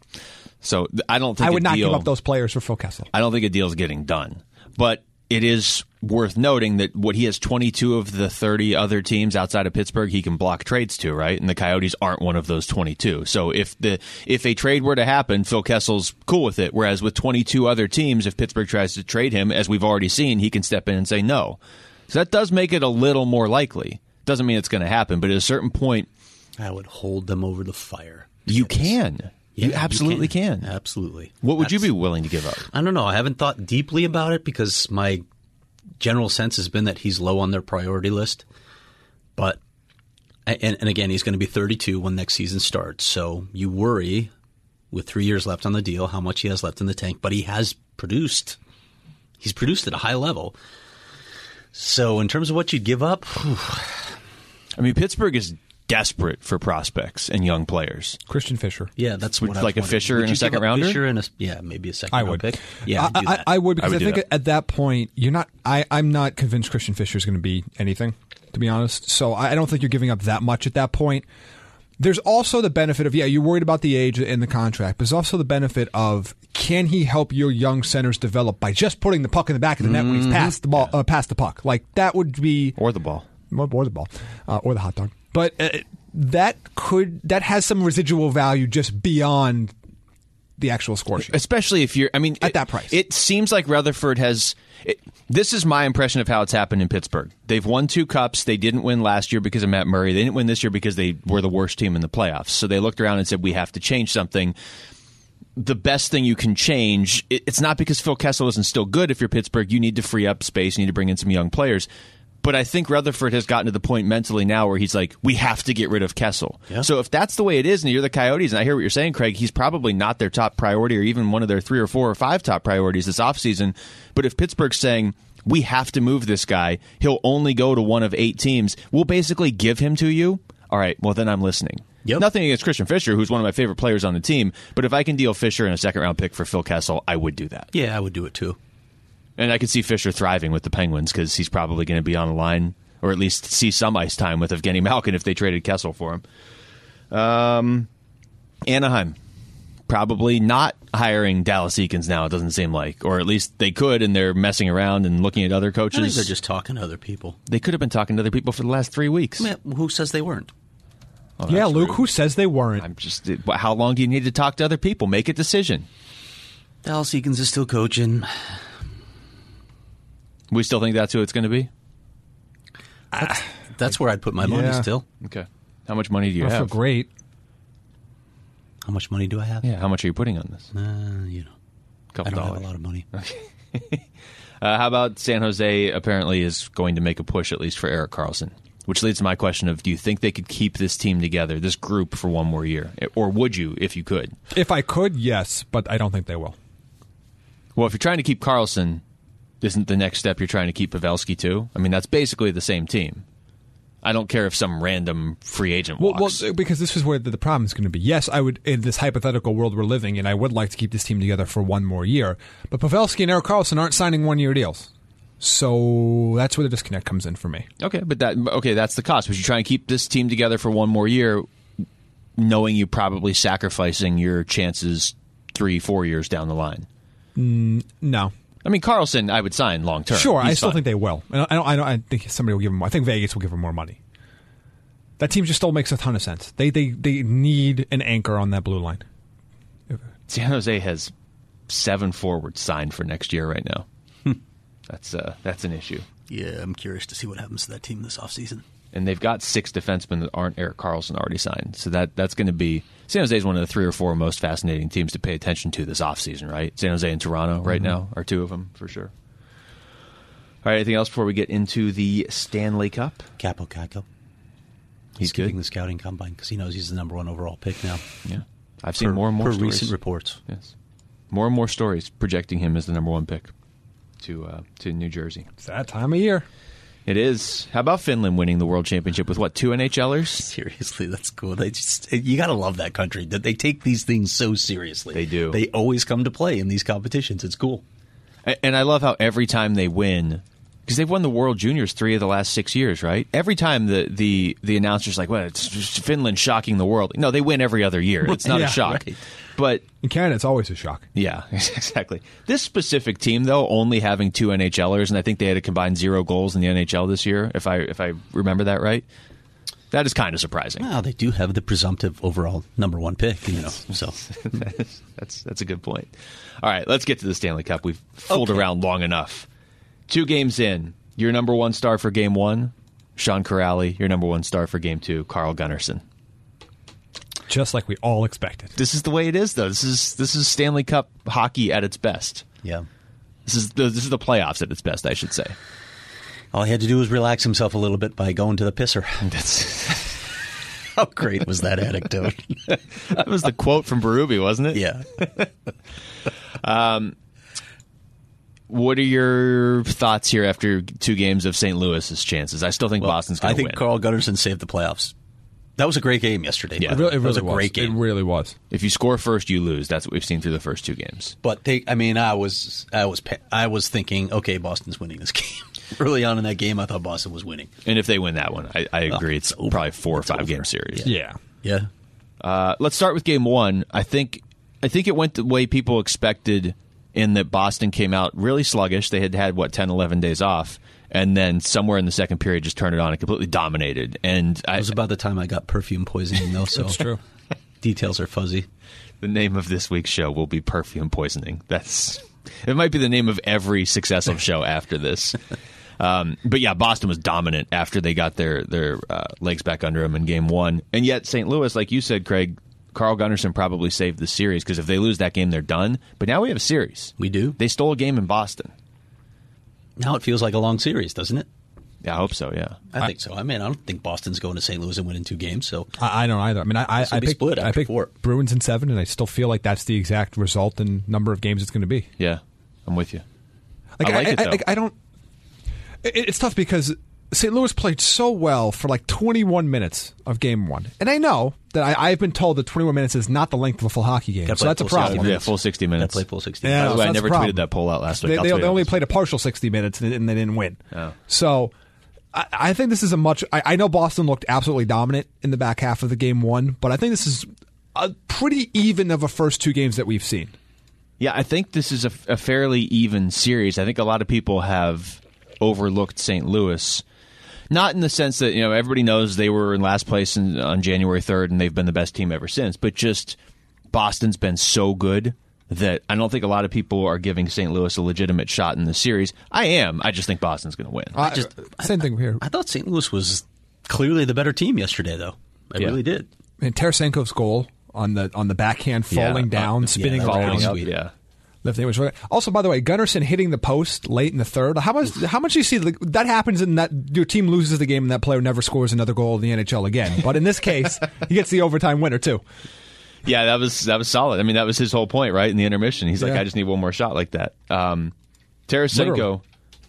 So th- I don't think I would a not deal, give up those players for Phil Kessel. I don't think a deal's getting done. But it is worth noting that what he has twenty-two of the thirty other teams outside of Pittsburgh he can block trades to, right? And the Coyotes aren't one of those twenty-two. So if the if a trade were to happen, Phil Kessel's cool with it. Whereas with twenty-two other teams, if Pittsburgh tries to trade him, as we've already seen, he can step in and say no. So that does make it a little more likely. Doesn't mean it's going to happen, but at a certain point, I would hold them over the fire. you can. Yeah, you absolutely you can. can. Absolutely. What would That's, you be willing to give up? I don't know. I haven't thought deeply about it because my general sense has been that he's low on their priority list. But and, and again, he's going to be thirty-two when next season starts. So you worry with three years left on the deal how much he has left in the tank. But he has produced. He's produced at a high level. So in terms of what you'd give up, whew. I mean, Pittsburgh is desperate for prospects and young players. Christian Fisher. Yeah, that's Would, what I like a was Fisher would and you a second give up rounder? Fisher and a, yeah, maybe a second I round would. pick. Yeah, I, I'd do I, that. I would because I I, would do think that. at that point you're not. I, I'm not convinced Christian Fisher is going to be anything, to be honest. So I, I don't think you're giving up that much at that point. There's also the benefit of yeah, you're worried about the age in the contract, but there's also the benefit of can he help your young centers develop by just putting the puck in the back of the net when he's past the ball, uh, past the puck. Like that would be Or the ball. or the ball, uh, or the hot dog. But uh, that could that has some residual value just beyond the actual score sheet. Especially if you're, I mean, At it, that price. It seems like Rutherford has, it, this is my impression of how it's happened in Pittsburgh. They've won two cups. They didn't win last year because of Matt Murray. They didn't win this year because they were the worst team in the playoffs. So they looked around and said, we have to change something. The best thing you can change, it, it's not because Phil Kessel isn't still good. If you're Pittsburgh, you need to free up space. You need to bring in some young players. But I think Rutherford has gotten to the point mentally now where he's like, we have to get rid of Kessel. Yeah. So if that's the way it is, and you're the Coyotes, and I hear what you're saying, Craig, he's probably not their top priority or even one of their three or four or five top priorities this offseason. But if Pittsburgh's saying, we have to move this guy, he'll only go to one of eight teams, we'll basically give him to you. All right, well, then I'm listening. Yep. Nothing against Christian Fisher, who's one of my favorite players on the team. But if I can deal Fisher and a second-round pick for Phil Kessel, I would do that. Yeah, I would do it too. And I could see Fisher thriving with the Penguins because he's probably going to be on the line, or at least see some ice time with Evgeny Malkin if they traded Kessel for him. Um, Anaheim, probably not hiring Dallas Eakins now, it doesn't seem like. Or at least they could, and they're messing around and looking at other I think coaches. they're just talking to other people. They could have been talking to other people for the last three weeks. I mean, who says they weren't? Oh, yeah, that's Luke, rude. who says they weren't? I'm just. How long do you need to talk to other people? Make a decision. Dallas Eakins is still coaching. We still think that's who it's going to be? That's, that's where I'd put my money Yeah. still. Okay. How much money do you I feel have? great. How much money do I have? Yeah, how much are you putting on this? Uh, you know, A couple I don't dollars. have a lot of money. Uh, how about San Jose apparently is going to make a push at least for Erik Karlsson, which leads to my question of do you think they could keep this team together, this group, for one more year? Or would you if you could? If I could, yes, but I don't think they will. Well, if you're trying to keep Karlsson, isn't the next step you're trying to keep Pavelski too? I mean, that's basically the same team. I don't care if some random free agent Well, walks. well, because this is where the, the problem is going to be. Yes, I would, in this hypothetical world we're living in, I would like to keep this team together for one more year. But Pavelski and Erik Karlsson aren't signing one-year deals. So that's where the disconnect comes in for me. Okay, but that okay, that's the cost. But you try and keep this team together for one more year, knowing you're probably sacrificing your chances three, four years down the line. Mm, no. I mean, Karlsson, I would sign long term. Sure, I He's still fine. think they will. I don't, I don't. I don't. I think somebody will give them more. I think Vegas will give them more money. That team just still makes a ton of sense. They they they need an anchor on that blue line. San Jose has seven forwards signed for next year right now. that's uh, that's an issue. Yeah, I'm curious to see what happens to that team this offseason. And they've got six defensemen that aren't Erik Karlsson already signed. So that that's going to be San Jose is one of the three or four most fascinating teams to pay attention to this offseason, right? San Jose and Toronto right Mm-hmm. now are two of them for sure. All right, anything else before we get into the Stanley Cup? Capo Caco. He's skipping good. the scouting combine because he knows he's the number one overall pick now. Yeah, I've seen Per- more and more per stories. recent reports. Yes, more and more stories projecting him as the number one pick to uh, to New Jersey. It's that time of year. It is. How about Finland winning the World Championship with what, two NHLers? Seriously, that's cool. They just you got to love that country that they take these things so seriously. They do. They always come to play in these competitions. It's cool. A- And I love how every time they win, because they've won the World Juniors three of the last six years, right? Every time the the, the announcer's like, well, it's just Finland shocking the world. No, they win every other year. It's not Yeah, a shock. right. But In Canada, it's always a shock. yeah, exactly. This specific team, though, only having two NHLers, and I think they had a combined zero goals in the N H L this year, if I if I remember that right. That is kind of surprising. Well, they do have the presumptive overall number one pick, you know. So that's that's a good point. All right, let's get to the Stanley Cup. We've fooled Okay. around long enough. Two games in, your number one star for game one, Sean Corrali. Your number one star for game two, Carl Gunnarsson. Just like we all expected. This is the way it is, though. This is this is Stanley Cup hockey at its best. Yeah. This is the this is the playoffs at its best, I should say. All he had to do was relax himself a little bit by going to the pisser. That's How great was that anecdote? that was the quote from Berube, wasn't it? Yeah. um, what are your thoughts here after two games of Saint Louis's chances? I still think Well, Boston's going I to win. think Carl Gunnarsson saved the playoffs. That was a great game yesterday. Yeah. It really, it That was really a great game. It really was. If you score first, you lose. That's what we've seen through the first two games. But they, I mean, I was, I was, I was thinking, okay, Boston's winning this game. Early on in that game, I thought Boston was winning. And if they win that one, I, I agree. Oh, it's it's over. probably four or It's five over. game series. Yeah. Yeah. Uh, let's start with game one. I think I think it went the way people expected in that Boston came out really sluggish. They had had, what, ten, eleven days off. And then somewhere in the second period just turned it on and completely dominated. And I, It was about the time I got perfume poisoning, though, so That's true. details are fuzzy. the name of this week's show will be Perfume Poisoning. That's it might be the name of every successive show after this. Um, but yeah, Boston was dominant after they got their their uh, legs back under them in game one. And yet Saint Louis, like you said, Craig, Carl Gunnarsson probably saved the series because if they lose that game, they're done. But now we have a series. We do. They stole a game in Boston. Now it feels like a long series, doesn't it? Yeah, I hope so, yeah. I, think so. I mean, I don't think Boston's going to Saint Louis and winning two games. So I, I don't either. I mean, I, I, This will I be picked, split I after picked four. Bruins in seven, and I still feel like that's the exact result and number of games it's going to be. Yeah, I'm with you. Like, I like it, I, though. I, I don't. It, it's tough because Saint Louis played so well for like twenty-one minutes of game one, and I know that I, I've been told that twenty-one minutes is not the length of a full hockey game, Gotta so play that's a full sixty problem. Yeah, full sixty minutes. Gotta play full sixty. Yeah. By the so way, I that's never the problem. tweeted that poll out last week. They, I'll they, tweet they it only this played a partial sixty minutes and, and they didn't win. Oh. So I, I think this is a much. I, I know Boston looked absolutely dominant in the back half of the game one, but I think this is a pretty even of a first two games that we've seen. Yeah, I think this is a, a fairly even series. I think a lot of people have overlooked Saint Louis. Not in the sense that, you know, everybody knows they were in last place in, on January third and they've been the best team ever since, but just Boston's been so good that I don't think a lot of people are giving Saint Louis a legitimate shot in the series. I am. I just think Boston's going to win. I, just- same thing here. I thought Saint Louis was clearly the better team yesterday, though. I Yeah. really did. And Tarasenko's goal on the on the backhand, Yeah. falling Uh, down, yeah, spinning that was around, pretty Following up, sweet. yeah. lifting. Was really, also, by the way, Gunnarsson hitting the post late in the third. How much? How much do you see like, that happens in that your team loses the game and that player never scores another goal in the N H L again? But in this case, he gets the overtime winner too. Yeah, that was that was solid. I mean, that was his whole point, right? In the intermission, he's like, Yeah. I just need one more shot like that. Um, Tarasenko, Literally.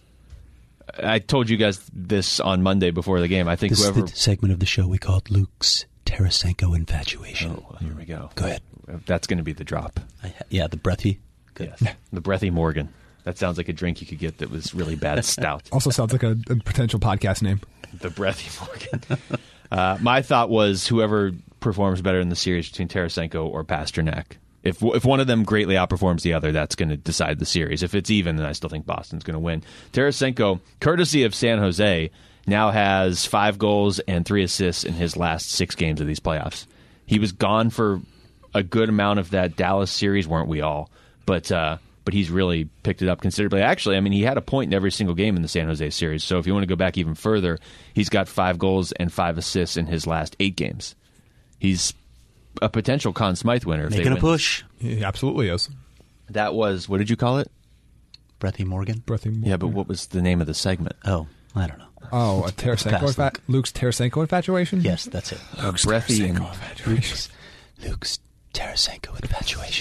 I told you guys this on Monday before the game. I think This whoever. is the segment of the show we called Luke's Tarasenko infatuation. Oh, here we go. Go ahead. That's going to be the drop. I, yeah, the breathy. Good. Yes. The Breathy Morgan. That sounds like a drink you could get that was really bad stout. Also sounds like a, a potential podcast name. The Breathy Morgan. Uh, my thought was whoever performs better in the series between Tarasenko or Pasternak. If if one of them greatly outperforms the other, that's going to decide the series. If it's even, then I still think Boston's going to win. Tarasenko, courtesy of San Jose, now has five goals and three assists in his last six games of these playoffs. He was gone for a good amount of that Dallas series, weren't we all? But uh, but he's really picked it up considerably. Actually, I mean, he had a point in every single game in the San Jose series. So if you want to go back even further, he's got five goals and five assists in his last eight games. He's a potential Conn Smythe winner. If Making they a win. push. He absolutely is. That was, what did you call it? Breathy Morgan. Breathy Morgan. Yeah, but what was the name of the segment? Oh, I don't know. Oh, a Tarasenko Pass, infa- Luke's Tarasenko infatuation? Yes, that's it. Luke's breathy and infatuation. Luke's Tarasenko infatuation.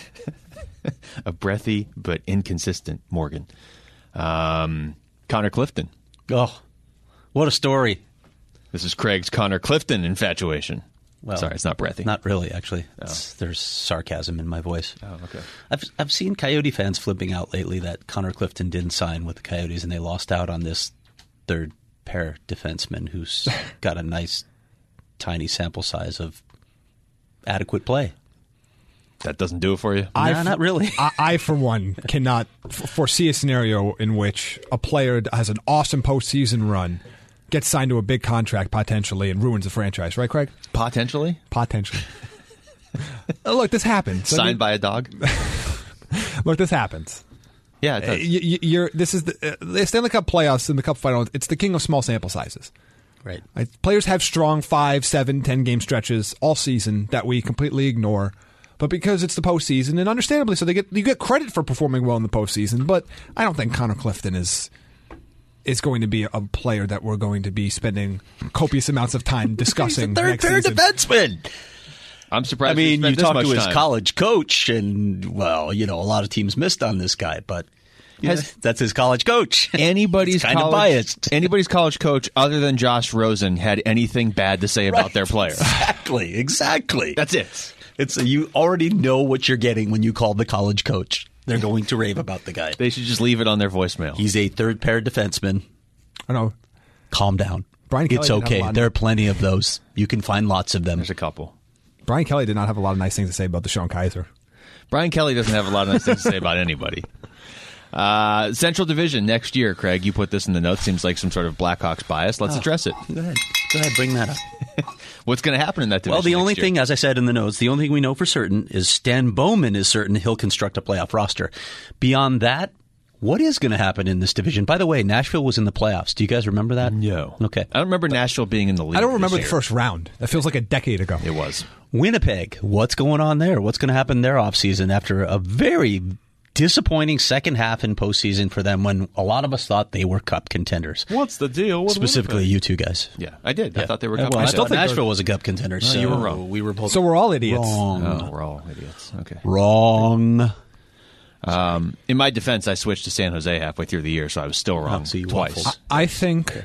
a breathy but inconsistent Morgan. Um, Connor Clifton. Oh, what a story. This is Craig's Connor Clifton infatuation. Well, Sorry, it's not breathy. Not really, actually. It's, there's sarcasm in my voice. Oh, okay. I've I've seen Coyote fans flipping out lately that Connor Clifton didn't sign with the Coyotes and they lost out on this third pair defenseman who's got a nice tiny sample size of adequate play. That doesn't do it for you? I Nah, f- not really. I, I, for one, cannot f- foresee a scenario in which a player has an awesome postseason run, gets signed to a big contract potentially, and ruins the franchise. Right, Craig? Potentially? Potentially. Uh, Look, this happens. I mean, Signed by a dog? look, this happens. Yeah, it Uh, does. you, you- you're, this is the, uh, the Stanley Cup playoffs and the Cup final. It's the king of small sample sizes. Right. Like, players have strong five, seven, ten game stretches all season that we completely ignore. But because it's the postseason, and understandably so, they get you get credit for performing well in the postseason. But I don't think Connor Clifton is is going to be a player that we're going to be spending copious amounts of time discussing. He's a third next pair season. defenseman. I'm surprised. I mean, he you spent this talk much to his time. college coach, and, well, you know, a lot of teams missed on this guy, but yeah, Has- that's his college coach. Anybody's It's kind of college, biased. anybody's college coach other than Josh Rosen had anything bad to say about Right. their player. Exactly, exactly. That's it. It's you already know what you're getting when you call the college coach. They're going to rave about the guy. They should just leave it on their voicemail. He's a third pair defenseman. I know. Calm down. Brian Kelly it's didn't have a okay. lot of- There are plenty of those. You can find lots of them. There's a couple. Brian Kelly did not have a lot of nice things to say about Deshaun Kaiser. Brian Kelly doesn't have a lot of nice things to say about anybody. Uh, Central Division next year, Craig. You put this in the notes. Seems like some sort of Blackhawks bias. Let's Oh, address it. Go ahead. Go ahead. Bring that up. What's going to happen in that division? Well, the next only year? thing, as I said in the notes, the only thing we know for certain is Stan Bowman is certain he'll construct a playoff roster. Beyond that, what is going to happen in this division? By the way, Nashville was in the playoffs. Do you guys remember that? No. Okay. I don't remember Nashville being in the league. I don't this remember the year. first round. That feels like a decade ago. It was. Winnipeg, what's going on there? What's going to happen in their offseason after a very disappointing second half in postseason for them when a lot of us thought they were cup contenders? What's the deal with Specifically, Winnipeg? you two guys. Yeah, I did. I Yeah. thought they were. Yeah, Cup well, I contenders. still think Nashville they're- was a cup contender. so you were wrong. We were both So we're all idiots. wrong. Oh, we're all idiots. Okay. Wrong. Um, in my defense, I switched to San Jose halfway through the year, so I was still wrong Oh, so you twice. waffled. I think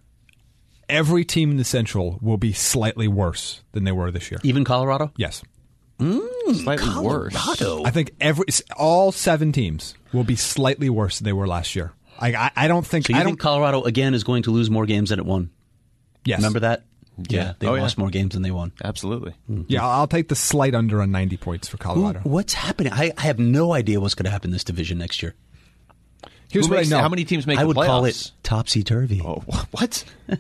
every team in the Central will be slightly worse than they were this year. Even Colorado? Yes. Slightly worse. Colorado. I think every all seven teams will be slightly worse than they were last year. I I, I don't think So you I think don't. Colorado, again, is going to lose more games than it won? Yes. Remember that? Yeah, they Oh, yeah. lost more games than they won. Absolutely. Yeah, I'll take the slight under on ninety points for Colorado. Who- what's happening? I, I have no idea what's going to happen in this division next year. Here's Who what makes- I know. How many teams make I the would playoffs? call it topsy-turvy. Oh, what?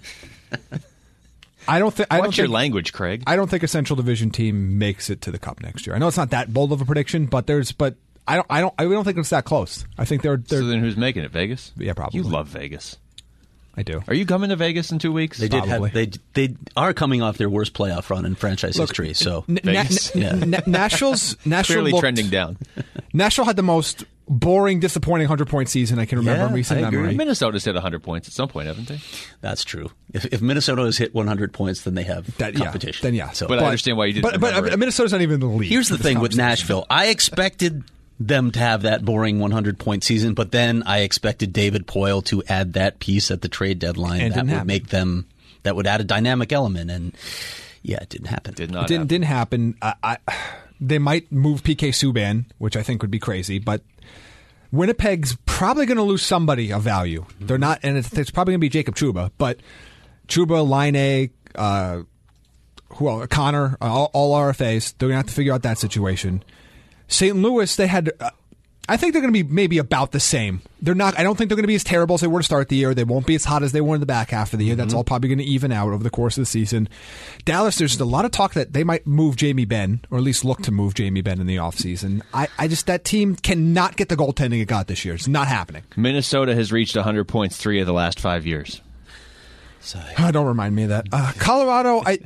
I don't think. I don't Watch your think, language, Craig. I don't think a Central Division team makes it to the Cup next year. I know it's not that bold of a prediction, but there's. But I don't. I don't. I don't think it's that close. I think they're. they're So then, who's making it? Vegas? Yeah, probably. You love Vegas. I do. Are you coming to Vegas in two weeks? They did Probably. have they they are coming off their worst playoff run in franchise history. So N- Na- Vegas. N- Yeah. N- Nashville's Nashville Clearly looked- trending down. Nashville had the most boring, disappointing hundred point season I can remember Yeah, in recent I agree. memory. Minnesota's hit one hundred points at some point, haven't they? that's true. If, if Minnesota has hit one hundred points, then they have That, yeah, competition. then yeah. So, But I understand why you didn't But, but remember uh, it. Minnesota's not even in the league. here's the for this thing with conversation. Nashville. I expected them to have that boring one hundred point season, but then I expected David Poyle to add that piece at the trade deadline And it that didn't would happen. make them that would add a dynamic element, and yeah, it didn't happen. Did It not. didn't happen. didn't happen. I, I, they might move P K Subban, which I think would be crazy, but Winnipeg's probably going to lose somebody of value. They're not, and it's, it's probably going to be Jacob Trouba, but Trouba, Line, uh, who else? Connor, uh, all, all R F As. They're going to have to figure out that situation. Saint Louis, they had. Uh, I think they're going to be maybe about the same. They're not. I don't think they're going to be as terrible as they were to start the year. They won't be as hot as they were in the back half of the year. That's all probably going to even out over the course of the season. Dallas, there's a lot of talk that they might move Jamie Benn, or at least look to move Jamie Benn in the offseason. I, I just that team cannot get the goaltending it got this year. It's not happening. Minnesota has reached one hundred points three of the last five years. So, Oh, don't remind me of that. Uh, Colorado, I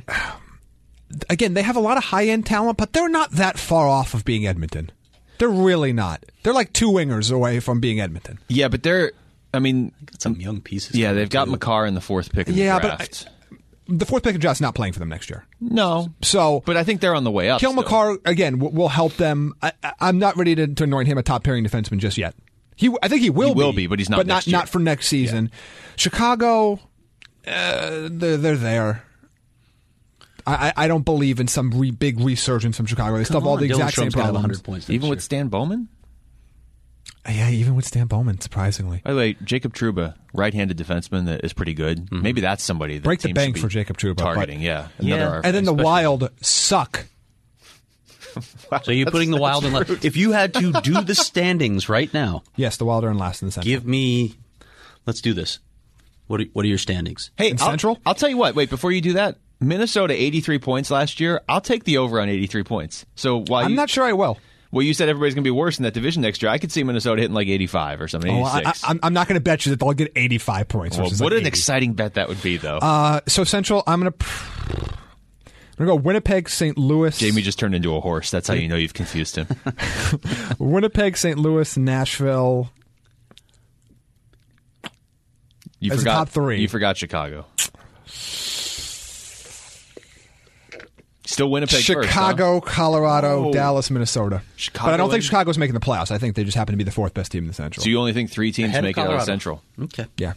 again, they have a lot of high end talent, but they're not that far off of being Edmonton. They're really not. They're like two wingers away from being Edmonton. Yeah, but they're. I mean, got some young pieces. yeah, coming, they've got too. McCarr in the fourth pick of Yeah, the but draft. The fourth pick of draft's not playing for them next year. no, So, but I think they're on the way up. Kill still. McCarr again will, will help them. I, I- I'm not ready to, to anoint him a top pairing defenseman just yet. He, I think he will. He will be, but he's not But next not year. not for next season. Chicago, uh, they're, they're there. I, I I don't believe in some re, big resurgence from Chicago. They still have all the Dylan exact same Strom's gonna have problems. one hundred points next Even with year. Stan Bowman. Yeah, even with Stan Bowman, surprisingly. By the way, Jacob Trouba, right-handed defenseman that is pretty good. Mm-hmm. Maybe that's somebody that Break the teams bank should for be Jacob Trouba, but- targeting. Yeah, Yeah. another R F A, And then the especially- Wild suck. So you're putting the Wild in last. If you had to do the standings right now, Yes, the Wild are in last in the Central. give me. Let's do this. What are, what are your standings? Hey, In I'll, Central? I'll tell you what. Wait, before you do that, Minnesota eighty-three points last year. I'll take the over on eighty-three points. So while I'm you, not sure I will. Well, you said everybody's going to be worse in that division next year. I could see Minnesota hitting like eighty-five or something. Oh, I, eighty-six. I, I'm not going to bet you that they'll get eighty-five points. Well, versus what like an eighty. exciting bet that would be, though. Uh, so Central, I'm going to. I'm going to go Winnipeg, Saint Louis. Jamie just turned into a horse. That's how you know you've confused him. Winnipeg, Saint Louis, Nashville. You As a forgot top three. You forgot Chicago. Still Winnipeg Chicago, first, huh? Colorado, Oh. Dallas, Minnesota. Chicago but I don't think and- Chicago's making the playoffs. I think they just happen to be the fourth best team in the Central. So you only think three teams Ahead of make it out of Colorado. Central? Okay. yeah.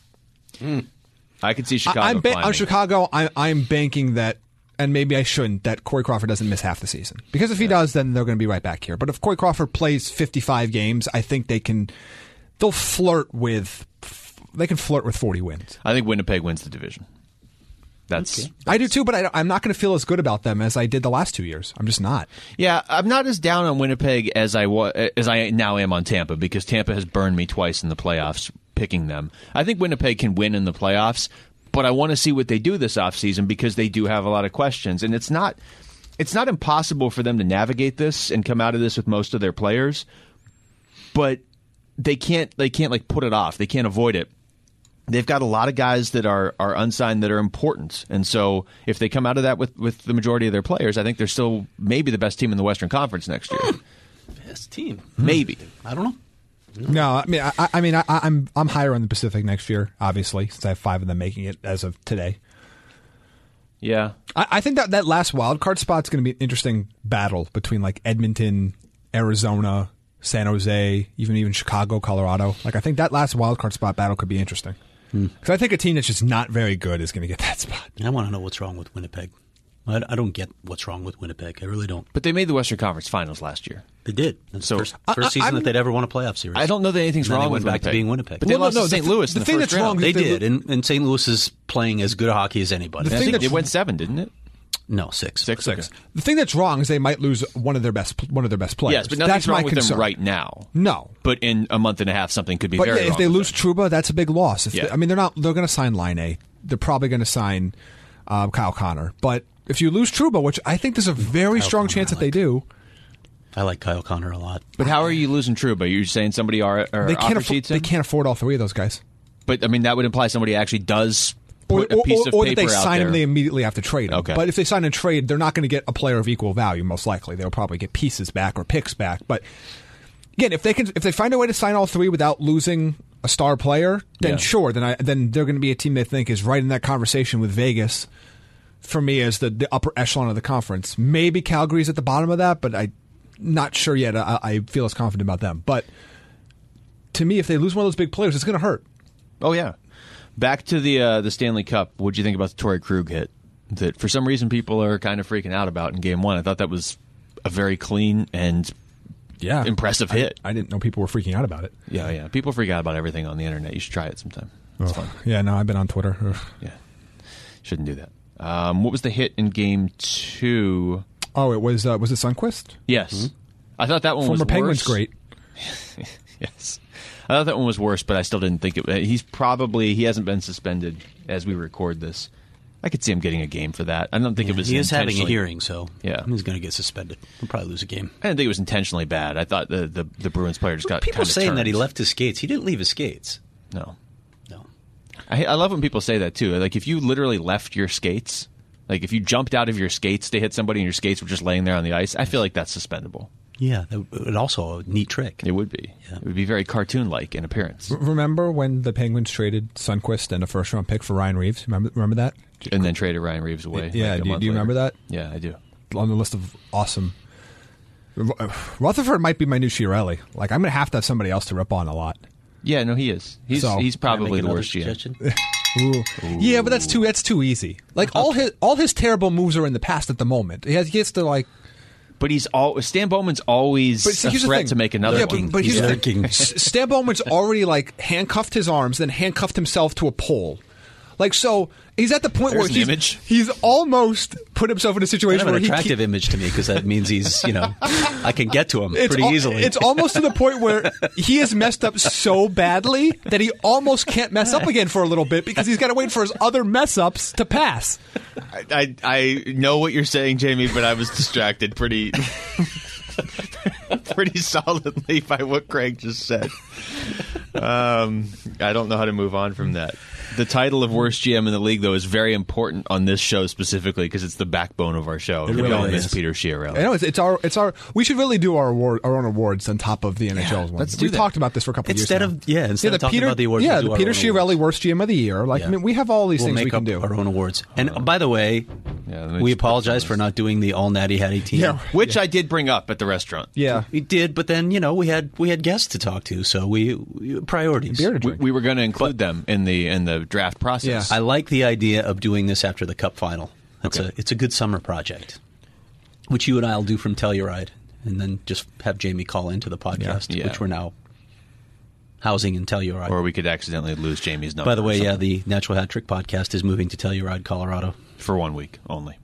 I could see Chicago I, I'm ba- climbing. on Chicago. I, I'm banking that, and maybe I shouldn't, that Corey Crawford doesn't miss half the season. Because if he does, then they're going to be right back here. But if Corey Crawford plays fifty-five games, I think they can. They'll flirt with. They can flirt with forty wins. I think Winnipeg wins the division. That's Okay. I do too, but I, I'm not going to feel as good about them as I did the last two years. I'm just not. Yeah, I'm not as down on Winnipeg as I wa- as I now am on Tampa because Tampa has burned me twice in the playoffs picking them. I think Winnipeg can win in the playoffs, but I want to see what they do this offseason because they do have a lot of questions, and it's not it's not impossible for them to navigate this and come out of this with most of their players, but they can't they can't like put it off. They can't avoid it. They've got a lot of guys that are, are unsigned that are important. And so if they come out of that with, with the majority of their players, I think they're still maybe the best team in the Western Conference next year. Best team. Maybe. I don't know. No, I mean, I, I mean, I, I'm I'm higher on the Pacific next year, obviously, since I have five of them making it as of today. Yeah. I, I think that that last wild card spot's going to be an interesting battle between like Edmonton, Arizona, San Jose, even even Chicago, Colorado. Like I think that last wild card spot battle could be interesting. Because I think a team that's just not very good is going to get that spot. I want to know what's wrong with Winnipeg. I, I don't get what's wrong with Winnipeg. I really don't. But they made the Western Conference Finals last year. They did. It's So- the first, I- first I- season I'm- that they'd ever won a playoff series. I don't know that anything's And then wrong they went with back to Winnipeg. being Winnipeg. But they Well, no, lost no, to the Saint th- Louis the in the thing first that's wrong round. is They They did, and, and Saint Louis is playing as good a hockey as anybody. The I thing think that's- it went seven, didn't it? No, six. Six. Six. Okay. The thing that's wrong is they might lose one of their best one of their best players. Yes, but nothing's that's wrong my with concern. them right now. No. But in a month and a half, something could be But very yeah, if wrong they with lose them. Trouba, that's a big loss. If Yeah. they- I mean, they're not. They're going to sign Line A. They're probably going to sign um, Kyle Connor. But if you lose Trouba, which I think there's a very Kyle strong Connor, chance I that they like. do, I like Kyle Connor a lot. But how are you losing Trouba? You're saying somebody are, are they can't. offer Afford, sheets they him? can't afford all three of those guys. But I mean, that would imply somebody actually does Or, put a piece or, of or paper that they out sign there. him, they immediately have to trade him. Okay. But if they sign and trade, they're not going to get a player of equal value. Most likely, they'll probably get pieces back or picks back. But again, if they can, if they find a way to sign all three without losing a star player, then Yeah. sure, then I then they're going to be a team they think is right in that conversation with Vegas. For me, as the, the upper echelon of the conference, maybe Calgary's at the bottom of that, but I'm not sure yet. I, I feel as confident about them. But to me, if they lose one of those big players, it's going to hurt. Oh yeah. Back to the uh, the Stanley Cup. What'd you think about the Torrey Krug hit? That for some reason people are kind of freaking out about in Game One. I thought that was a very clean and Yeah, impressive I- hit. I, didn't know people were freaking out about it. Yeah, yeah. People freak out about everything on the internet. You should try it sometime. It's Ugh. fun. Yeah, no, I've been on Twitter. Ugh. Yeah, shouldn't do that. Um, what was the hit in Game Two? Oh, it was uh, was it Sundqvist? Yes, I thought that one was Former Penguins worse. great. Yes, I thought that one was worse, but I still didn't think it. He's probably he hasn't been suspended as we record this. I could see him getting a game for that. I don't think it was. He is having a intentionally- hearing, so Yeah. he's going to get suspended. He'll probably lose a game. I didn't think it was intentionally bad. I thought the the, the Bruins player just got People kind of saying that turned. he left his skates. He didn't leave his skates. No, No. I, I love when people say that too. Like if you literally left your skates, like if you jumped out of your skates to hit somebody and your skates were just laying there on the ice, I feel like that's suspendable. Yeah, that would also a neat trick. It would be. Yeah. It would be very cartoon-like in appearance. Remember when the Penguins traded Sundqvist and a first round pick for Ryan Reeves? Remember remember that? And then traded Ryan Reeves away. Yeah, like a do you- month do you later. remember that? Yeah, I do. On the list of awesome. Rutherford might be my new Chiarelli. Like I'm going to have to have somebody else to rip on a lot. Yeah, no, he is. He's So- he's probably Make the another worst G M. suggestion? Ooh. Yeah, but that's too that's too easy. Like all his all his terrible moves are in the past at the moment. He has he gets to like. But he's all Stan Bowman's always But see, a here's the threat thing. to make another yeah, one. But, but He's here's the lurking. thing. S- Stan Bowman's already like handcuffed his arms, then handcuffed himself to a pole. Like so, he's at the point There's where an he's, image. he's almost put himself in a Kind situation of an where he attractive can't- image to me because that means he's, you know, I can get to him it's pretty al- easily. It's almost to the point where he has messed up so badly that he almost can't mess up again for a little bit because he's got to wait for his other mess ups to pass. I, I I know what you're saying, Jamie, but I was distracted pretty. pretty solidly by what Craig just said. Um, I don't know how to move on from that. The title of worst G M in the league, though, is very important on this show specifically because it's the backbone of our show. It we really don't is. miss Peter Schiarelli. I know it's, it's our it's our. We should really do our award, our own awards on top of the N H L's ones. let's do We've that. talked about this for a couple Instead of years. of yeah, instead now. of talking Peter, about the awards, yeah, we'll do the our Peter own Schiarelli awards. worst G M of the year. Like Yeah. I mean, we have all these We'll things make we can up do. our own awards. And uh, by the way, Yeah, let me we just put apologize this. for not doing the all natty hattie team. Yeah. Which I did bring up at the restaurant. Yeah, We did, but then you know we had we had guests to talk to, so we, we priorities. beer to We, drink. we were going to include them in the in the draft process. Yeah. I like the idea of doing this after the Cup final. It's Okay. a it's a good summer project, which you and I will do from Telluride, and then just have Jamie call into the podcast, Yeah. which we're now housing in Telluride. Or we could accidentally lose Jamie's number. By the way, or yeah, something. the Natural Hat Trick podcast is moving to Telluride, Colorado. for one week only.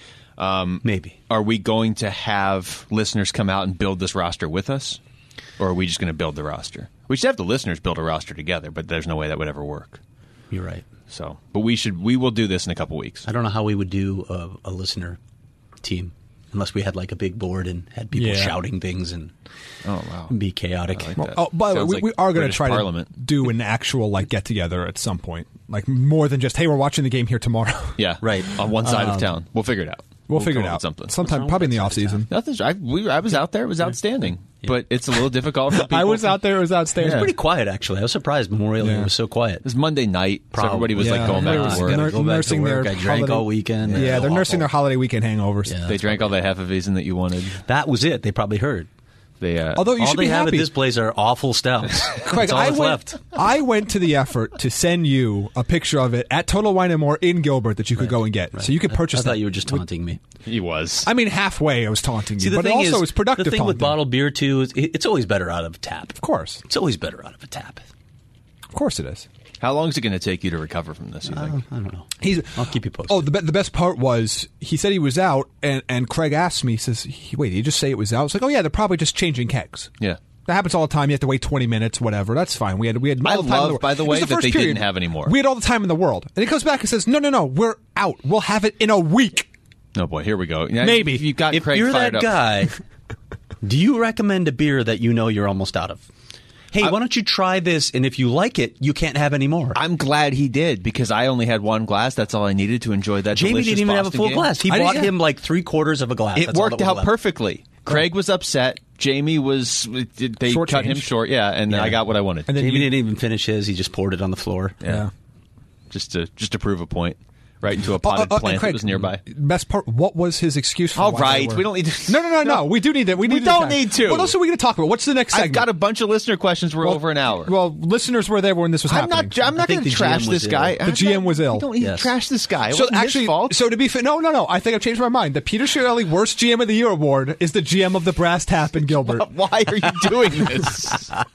Maybe. Are we going to have listeners come out and build this roster with us? Or are we just going to build the roster? We should have the listeners build a roster together, but there's no way that would ever work. You're right. So, but we should. We will do this in a couple weeks. I don't know how we would do a, a listener team unless we had like a big board and had people Yeah. shouting things and Oh wow! be chaotic. I like Well, that. oh, by the way, Sounds we, like we are going to British try Parliament. to do an actual like get together at some point, like more than just hey, we're watching the game here tomorrow. Yeah, Right. on one side Um, of town. We'll figure it out. We'll, We'll figure come it up out with something. sometime, What's probably in the wrong off with that season. Nothing. I, we, I was out there. It was outstanding, but it's a little difficult for people. I was to- out there. It was outstanding. Yeah. Pretty quiet, actually. I was surprised Memorial Day Yeah. was so quiet. It was Monday night, so Probably. everybody was Yeah. like going back Everybody to was work. nur- Go back to nursing work. their I drank holiday- all weekend. Yeah, It was they're nursing awful. their holiday weekend hangovers. Yeah. They drank all the Hefeweizen that you wanted. That was it. They probably heard. They uh, Although you all should they be have happy. at this place are awful stouts. Craig, That's all I that's went, left. I went to the effort to send you a picture of it at Total Wine and More in Gilbert that you could go and get, so you could purchase. I thought that. you were just taunting me. he was. I mean, halfway I was taunting See, you, the but thing also is, it was productive. the thing with taunting. bottled beer too is it- it's always better out of a tap. of course, It's always better out of a tap. of course it is. How long is it going to take you to recover from this? You think? I don't know. He's. I'll keep you posted. Oh, the be- the best part was he said he was out, and, and Craig asked me, he says, he, "Wait, did you just say it was out?" It's like, "Oh yeah, they're probably just changing kegs." Yeah. That happens all the time. You have to wait twenty minutes, whatever. That's fine. We had we had all I the time in love, the world. by the It was way, that first they period. didn't have any more. We had all the time in the world, and he comes back and says, "No, no, no, we're out. We'll have it in a week." Oh boy, here we go. Now, Maybe. you got if Craig you're fired that up. guy, do you recommend a beer that you know you're almost out of? Hey, why don't you try this? And if you like it, you can't have any more. I'm glad he did because I only had one glass. That's all I needed to enjoy that. Jamie delicious didn't even have a Boston full game. glass. He I bought didn't- him like three quarters of a glass. It That's all worked that was out left. perfectly. Craig was upset. Jamie was. They Short cut him change. short. Yeah, and Yeah. I got what I wanted. And then Jamie you- didn't even finish his. He just poured it on the floor. Yeah. just to just to prove a point, right into a Oh, potted uh, uh, plant Craig, that was nearby. Best part. What was his excuse for? All why they right, were- we don't need to. No, no, no, no. We do need that. We, need We to don't attack. need to. What else are we going to talk about? What's the next segment? I've got a bunch of listener questions. We're Well- over an hour. Well, listeners were there when this was I'm happening. not. I'm not think going to the trash G M this was guy. ill. The G M was ill. We don't need Yes. to trash this guy. It So wasn't his actually, fault. so to be fair, no, no, no. I think I've changed my mind. The Peter Schiarelli Worst G M of the Year award is the G M of the Brass Tap in Gilbert. Why are you doing this? All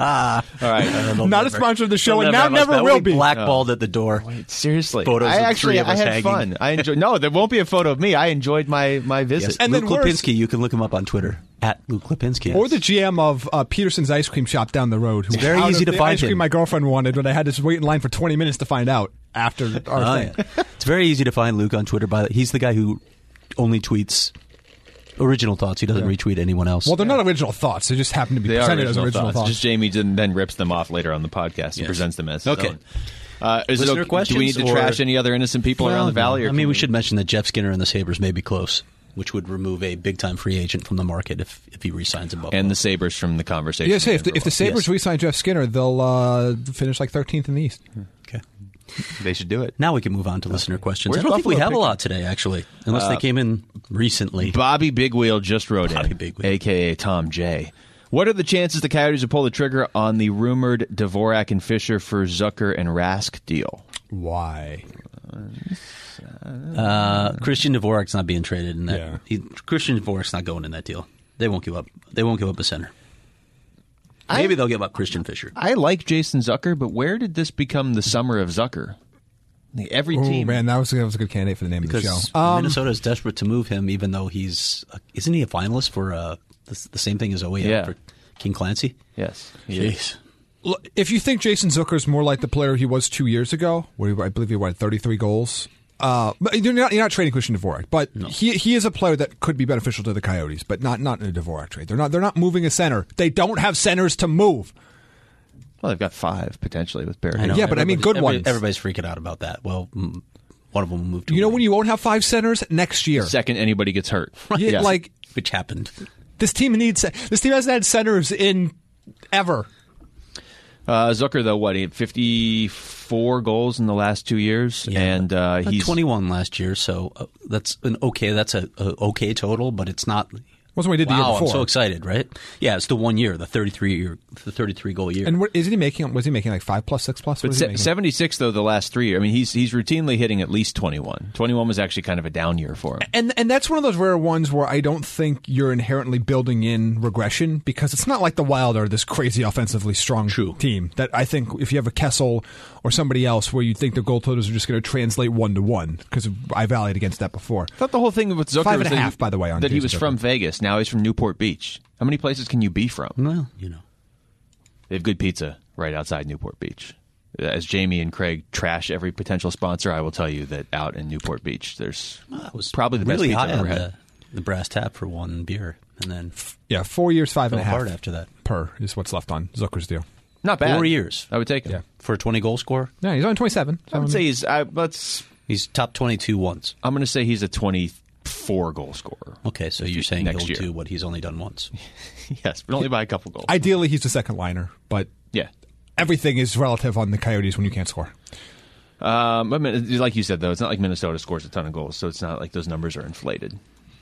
right. Not a sponsor of the show, They'll and now have us never back. will We'll be. Blackballed at the door. Seriously, Photos I of actually three of I us had hanging. fun. I enjoyed. No, there won't be a photo of me. I enjoyed my my visit. Yes. And Luke then worse- Lipinski, you can look him up on Twitter at Luke Lipinski. Or the G M of uh, Peterson's ice cream shop down the road. Who very out easy of to the find ice cream him. my girlfriend wanted, but I had to wait in line for twenty minutes to find out after our Oh, thing. yeah. It's very easy to find Luke on Twitter. By the, he's the guy who only tweets original thoughts. He doesn't retweet anyone else. Well, they're not original thoughts. They just happen to be They are presented original, as original thoughts. thoughts. Just Jamie didn't, then rips them off later on the podcast and Yes. presents them as his Okay. own. Uh, is it Listener okay, do we need questions to or- trash any other innocent people Well, around the valley? Or I mean, can we should mention that Jeff Skinner and the Sabres may be close, which would remove a big-time free agent from the market if, if he re-signs in Buffalo. and the Sabres from the conversation. Yes, hey, if the, if the Sabres Yes. re-sign Jeff Skinner, they'll uh, finish like thirteenth in the East. Okay. they should do it. Now we can move on to listener questions. Where's I don't think we Buffalo have a pick- lot today, actually, unless they came in recently. Bobby Bigwheel just wrote Bobby in, Bigwheel. a k a. Tom J. What are the chances the Coyotes will pull the trigger on the rumored Dvorak and Fisher for Zucker and Rask deal? Why? Uh, Christian Dvorak's not being traded in that. Yeah. He, Christian Dvorak's not going in that deal. They won't give up. They won't give up a center. Maybe I- they'll give up Christian Fisher. I like Jason Zucker, but where did this become the summer of Zucker? Like, every Oh team. man, that was that was a good candidate for the name Because of the show. Um, Minnesota is desperate to move him, even though he's uh, isn't he a finalist for uh, the, the same thing as Oya Yeah. for King Clancy? Yes. he is. Look, if you think Jason Zucker's more like the player he was two years ago, where he, I believe he had thirty-three goals, Uh, but you're not, you're not trading Christian Dvorak, but no. he he is a player that could be beneficial to the Coyotes, but not not in a Dvorak trade. They're not they're not moving a center. They don't have centers to move. Well, they've got five potentially with Barry. Yeah, but I mean good everybody, ones. Everybody's freaking out about that. Well, one of them will move to You know away. when you won't have five centers next year. Second anybody gets hurt. Yeah, yes. Like which happened. This team needs this team hasn't had centers in ever. Uh, Zucker, though, what, he had fifty-four goals in the last two years, Yeah, and uh, he's twenty-one last year. So uh, that's an okay. That's a, a okay total, but it's not. Wasn't what he did the wow, year before. I'm so excited, right? Yeah, it's the one year, the thirty-three year, the thirty-three goal year. And what, isn't he making? Was he making like five plus, six plus? What but is he se- making? seventy-six though the last three years. I mean, he's he's routinely hitting at least twenty-one. twenty-one was actually kind of a down year for him. And and that's one of those rare ones where I don't think you're inherently building in regression because it's not like the Wild are this crazy offensively strong True. team that I think if you have a Kessel or somebody else where you think the goal totals are just going to translate one to one because I rallied against that before. I thought the whole thing with Zucker Five was and a that half, he, by the way, on that he Jason was Zucker. from Vegas. Now he's from Newport Beach. How many places can you be from? Well, you know. They have good pizza right outside Newport Beach. As Jamie and Craig trash every potential sponsor, I will tell you that out in Newport Beach, there's Well, it was probably the really best pizza high I've ever on had. the, the brass tap for one beer, and then Yeah, four years, five and a fell half apart after that. per is what's left on Zucker's deal. Not bad. Four years. I would take him. Yeah. For a twenty goal score, Yeah, he's on twenty-seven. I would say he's. I, let's. he's top twenty-two once. I'm going to say he's a twenty-four goal scorer. Okay, so you're saying Next he'll year. do what he's only done once. Yes, but only by a couple goals. Ideally, he's the second liner, but yeah. everything is relative on the Coyotes when you can't score. Um, I mean, like you said, though, it's not like Minnesota scores a ton of goals, so it's not like those numbers are inflated.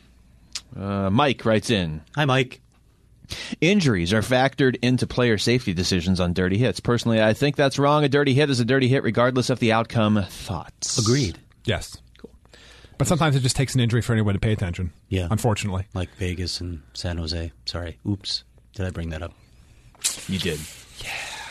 Uh, Mike writes in, Hi, Mike. injuries are factored into player safety decisions on dirty hits. Personally, I think that's wrong. A dirty hit is a dirty hit regardless of the outcome. Thoughts? Agreed. Yes. Cool. But sometimes it just takes an injury for anyone to pay attention. Yeah. Unfortunately. Like Vegas and San Jose. Sorry. Oops. Did I bring that up? You did. Yeah.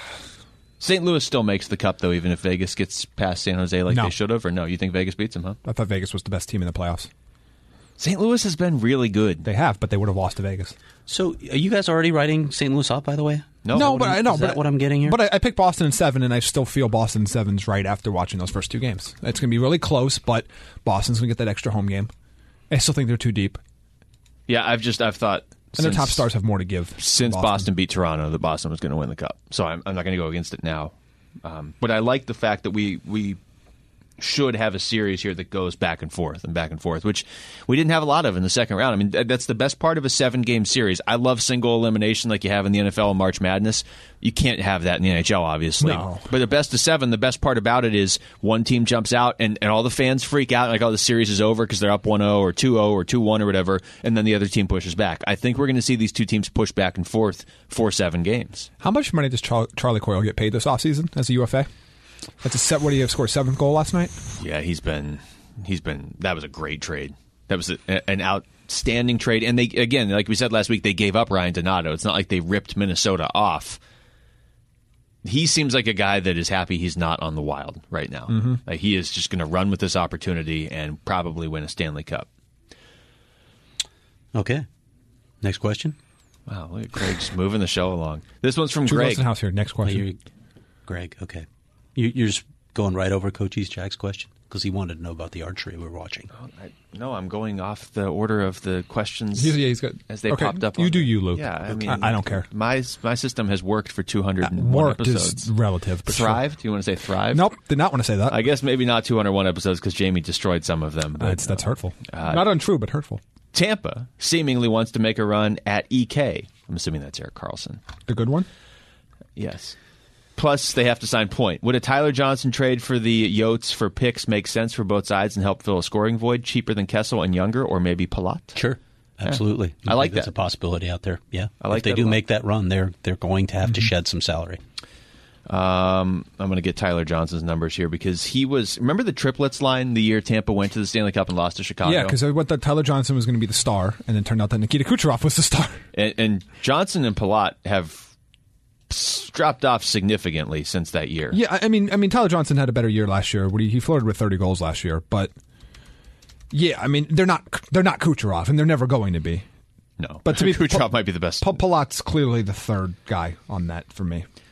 Saint Louis still makes the cup, though, even if Vegas gets past San Jose like No. they should have, or no? You think Vegas beats them, huh? I thought Vegas was the best team in the playoffs. Saint Louis has been really good. They have, but they would have lost to Vegas. So, are you guys already writing Saint Louis up, by the way? No, no, what but I'm- I know. is but that what I'm getting here? But I, I picked Boston in seven, and I still feel Boston in seven's right after watching those first two games. It's going to be really close, but Boston's going to get that extra home game. I still think they're too deep, Yeah, I've just I've thought and their since- top stars have more to give. since than Boston. beat Toronto that Boston was going to win the cup. So I'm, I'm not going to go against it now. Um, but I like the fact that we we should have a series here that goes back and forth and back and forth, which we didn't have a lot of in the second round. I mean, th- that's the best part of a seven-game series. I love single elimination like you have in the N F L and March Madness. You can't have that in the N H L, obviously. No. But the best of seven, the best part about it is one team jumps out and, and all the fans freak out like, oh, the series is over because they're up one oh or two oh or two one or whatever, and then the other team pushes back. I think we're going to see these two teams push back and forth for seven games. How much money does Char- Charlie Coyle get paid this offseason as a U F A? That's a set. What do you have scored? Seventh goal last night. Yeah, he's been he's been that was a great trade. That was a, an outstanding trade. And they again, like we said last week, they gave up Ryan Donato. It's not like they ripped Minnesota off. He seems like a guy that is happy he's not on the Wild right now. Mm-hmm. Like he is just going to run with this opportunity and probably win a Stanley Cup. Okay. Next question. Wow, look at Greg just moving the show along. This one's from Drew Greg. Wilson House here. Next Oh, question. you're, Greg, okay. You, you're just going right over Coach East Jack's question? Because he wanted to know about the archery we're watching. I, no, I'm going off the order of the questions He's- yeah, he's good. as they Okay, popped up. you on do there. you, Luke. Yeah, I Okay. mean, I- I don't care. My my system has worked for two hundred one Worked episodes. is relative. But sure. Thrive? Do you want to say thrive? Nope. Did not want to say that. I guess maybe not two hundred one episodes because Jamie destroyed some of them. But, that's that's hurtful. Uh, not untrue, but hurtful. Tampa seemingly wants to make a run at E K. I'm assuming that's Erik Karlsson. The good one. Yes. Plus, they have to sign Point. Would a Tyler Johnson trade for the Yotes for picks make sense for both sides and help fill a scoring void? Cheaper than Kessel and Younger, or maybe Palat? Sure. Absolutely. I like That's that. a possibility out there. Yeah. I like if they that do a lot. make that run, they're they're going to have Mm-hmm. to shed some salary. Um, I'm going to get Tyler Johnson's numbers here because he was. Remember the triplets line the year Tampa went to the Stanley Cup and lost to Chicago? Yeah, because I thought Tyler Johnson was going to be the star, and then turned out that Nikita Kucherov was the star. And, and Johnson and Palat have s- dropped off significantly since that year. Yeah, I I mean, I mean, Tyler Johnson had a better year last year. He, he flirted with thirty goals last year, but yeah, I mean, they're not they're not Kucherov, and they're never going to be. No, But to be Kucherov Pa- might be the best. Pa- Palat's clearly the third guy on that for me.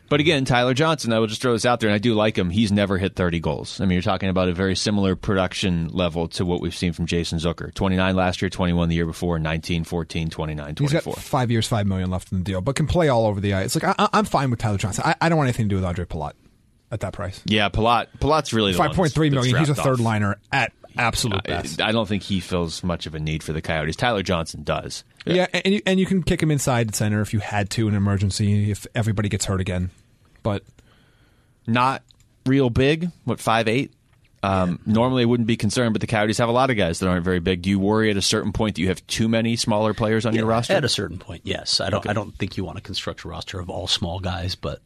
But again, Tyler Johnson, I will just throw this out there, and I do like him. He's never hit thirty goals. I mean, you're talking about a very similar production level to what we've seen from Jason Zucker. twenty-nine last year, twenty-one the year before, nineteen, fourteen, twenty-nine, twenty-four. He's got five years, five million left in the deal, but can play all over the ice. Like I, I'm fine with Tyler Johnson. I, I don't want anything to do with Andre Palat at that price. Yeah, Palat. Palat's really the five point three million. He's a third off. liner at absolute I, best. I don't think he feels much of a need for the Coyotes. Tyler Johnson does. Yeah, and you, and you can kick him inside center if you had to in an emergency if everybody gets hurt again. But not real big. What, five eight? Um, yeah. Normally I wouldn't be concerned, but the Coyotes have a lot of guys that aren't very big. Do you worry at a certain point that you have too many smaller players on yeah, your roster? At a certain point, yes. I don't. Okay. I don't think you want to construct a roster of all small guys, but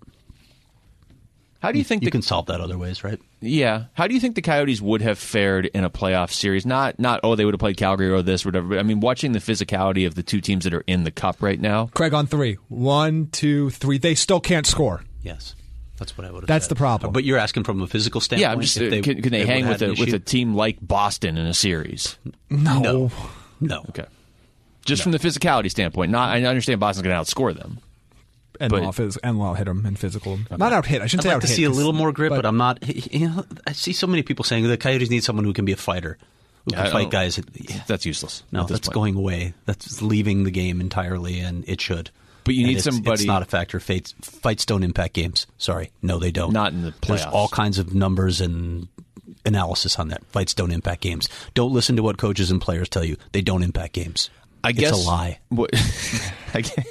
how do you think you the, can solve that other ways, right? Yeah. How do you think the Coyotes would have fared in a playoff series? Not, not oh, they would have played Calgary or this or whatever. But I mean, watching the physicality of the two teams that are in the Cup right now. Craig on three. One, two, three. They still can't score. Yes. That's what I would have That's said. the problem. But you're asking from a physical standpoint? Yeah, I'm just, if they, can, can they, they hang would with have a, an with issue? a team like Boston in a series? No. No. No. Okay. Just No. from the physicality standpoint. Not, I understand Boston's going to outscore them. And But- law phys- and law hit him and physical. Not out hit. I shouldn't I'd say like out to hit. see a 'cause- little more grit, but, I'm not. You know, I see so many people saying the Coyotes need someone who can be a fighter, who can I fight don't- guys. That's useless. No, at this that's point. going away. That's leaving the game entirely, and it should. But you And need it's, somebody- It's not a factor. Fights, fights don't impact games. Sorry, no, they don't. Not in the There's playoffs. all kinds of numbers and analysis on that. Fights don't impact games. Don't listen to what coaches and players tell you. They don't impact games. I it's guess a lie. What, I guess,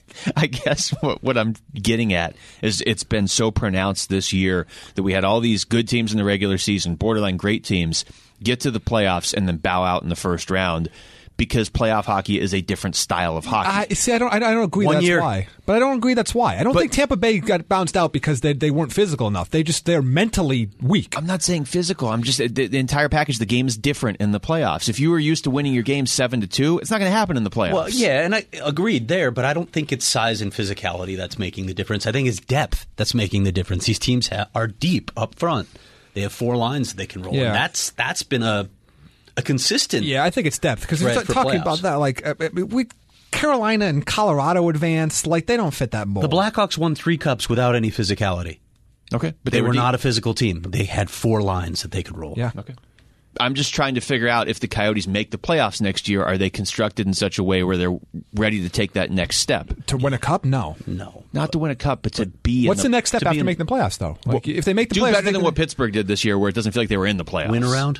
I guess what, what I'm getting at is it's been so pronounced this year that we had all these good teams in the regular season, borderline great teams, get to the playoffs and then bow out in the first round because playoff hockey is a different style of hockey. I see. I don't. I don't agree. One that's year- why. But I don't agree. That's why. I don't But- think Tampa Bay got bounced out because they they weren't physical enough. They just they're mentally weak. I'm not saying physical. I'm just the, the entire package. The game is different in the playoffs. If you were used to winning your game seven to two, it's not going to happen in the playoffs. Well, yeah, and I agreed there, but I don't think it's size and physicality that's making the difference. I think it's depth that's making the difference. These teams ha- are deep up front. They have four lines that they can roll. Yeah. And that's that's been a a consistent. Yeah, I think it's depth because Threat we're for talking playoffs. about that. Like uh, we, Carolina and Colorado advanced. Like they don't fit that mold. The Blackhawks won three cups without any physicality. okay, but They, were deep. not a physical team. They had four lines that they could roll. Yeah. Okay. I'm just trying to figure out if the Coyotes make the playoffs next year, are they constructed in such a way where they're ready to take that next step? To win a cup, no. No. Not to win a cup, but to be What's in the next step to be after in- making the playoffs, though? Like, if they make the do playoffs, better they than can- what Pittsburgh did this year, where it doesn't feel like they were in the playoffs. Win around?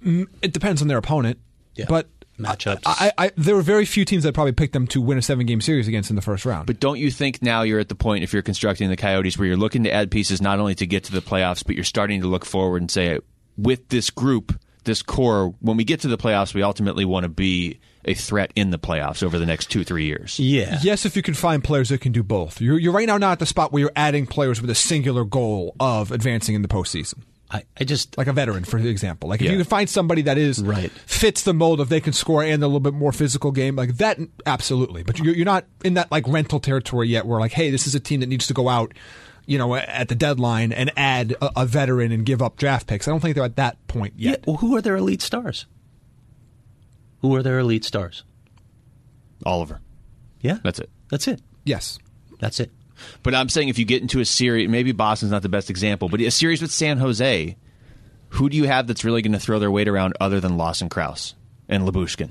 It depends on their opponent. Yeah. But Matchups. I, I, there were very few teams that probably picked them to win a seven-game series against in the first round. But don't you think now you're at the point, if you're constructing the Coyotes, where you're looking to add pieces not only to get to the playoffs, but you're starting to look forward and say, with this group, this core, when we get to the playoffs, we ultimately want to be a threat in the playoffs over the next two, three years. Yeah. Yes, if you can find players that can do both. You're, you're right now not at the spot where you're adding players with a singular goal of advancing in the postseason. I, I just. Like a veteran, for example. Like if Yeah. you can find somebody that is Right. fits the mold of they can score and a little bit more physical game, like that, absolutely. But you're, you're not in that like rental territory yet, where like, hey, this is a team that needs to go out, you know, at the deadline and add a, a veteran and give up draft picks. I don't think they're at that point Yeah. yet. Well, who are their elite stars? Who are their elite stars? Oliver. Yeah. That's it. That's it. Yes. That's it. But I'm saying if you get into a series, maybe Boston's not the best example, but a series with San Jose, who do you have that's really going to throw their weight around other than Lawson Krause and Lyubushkin?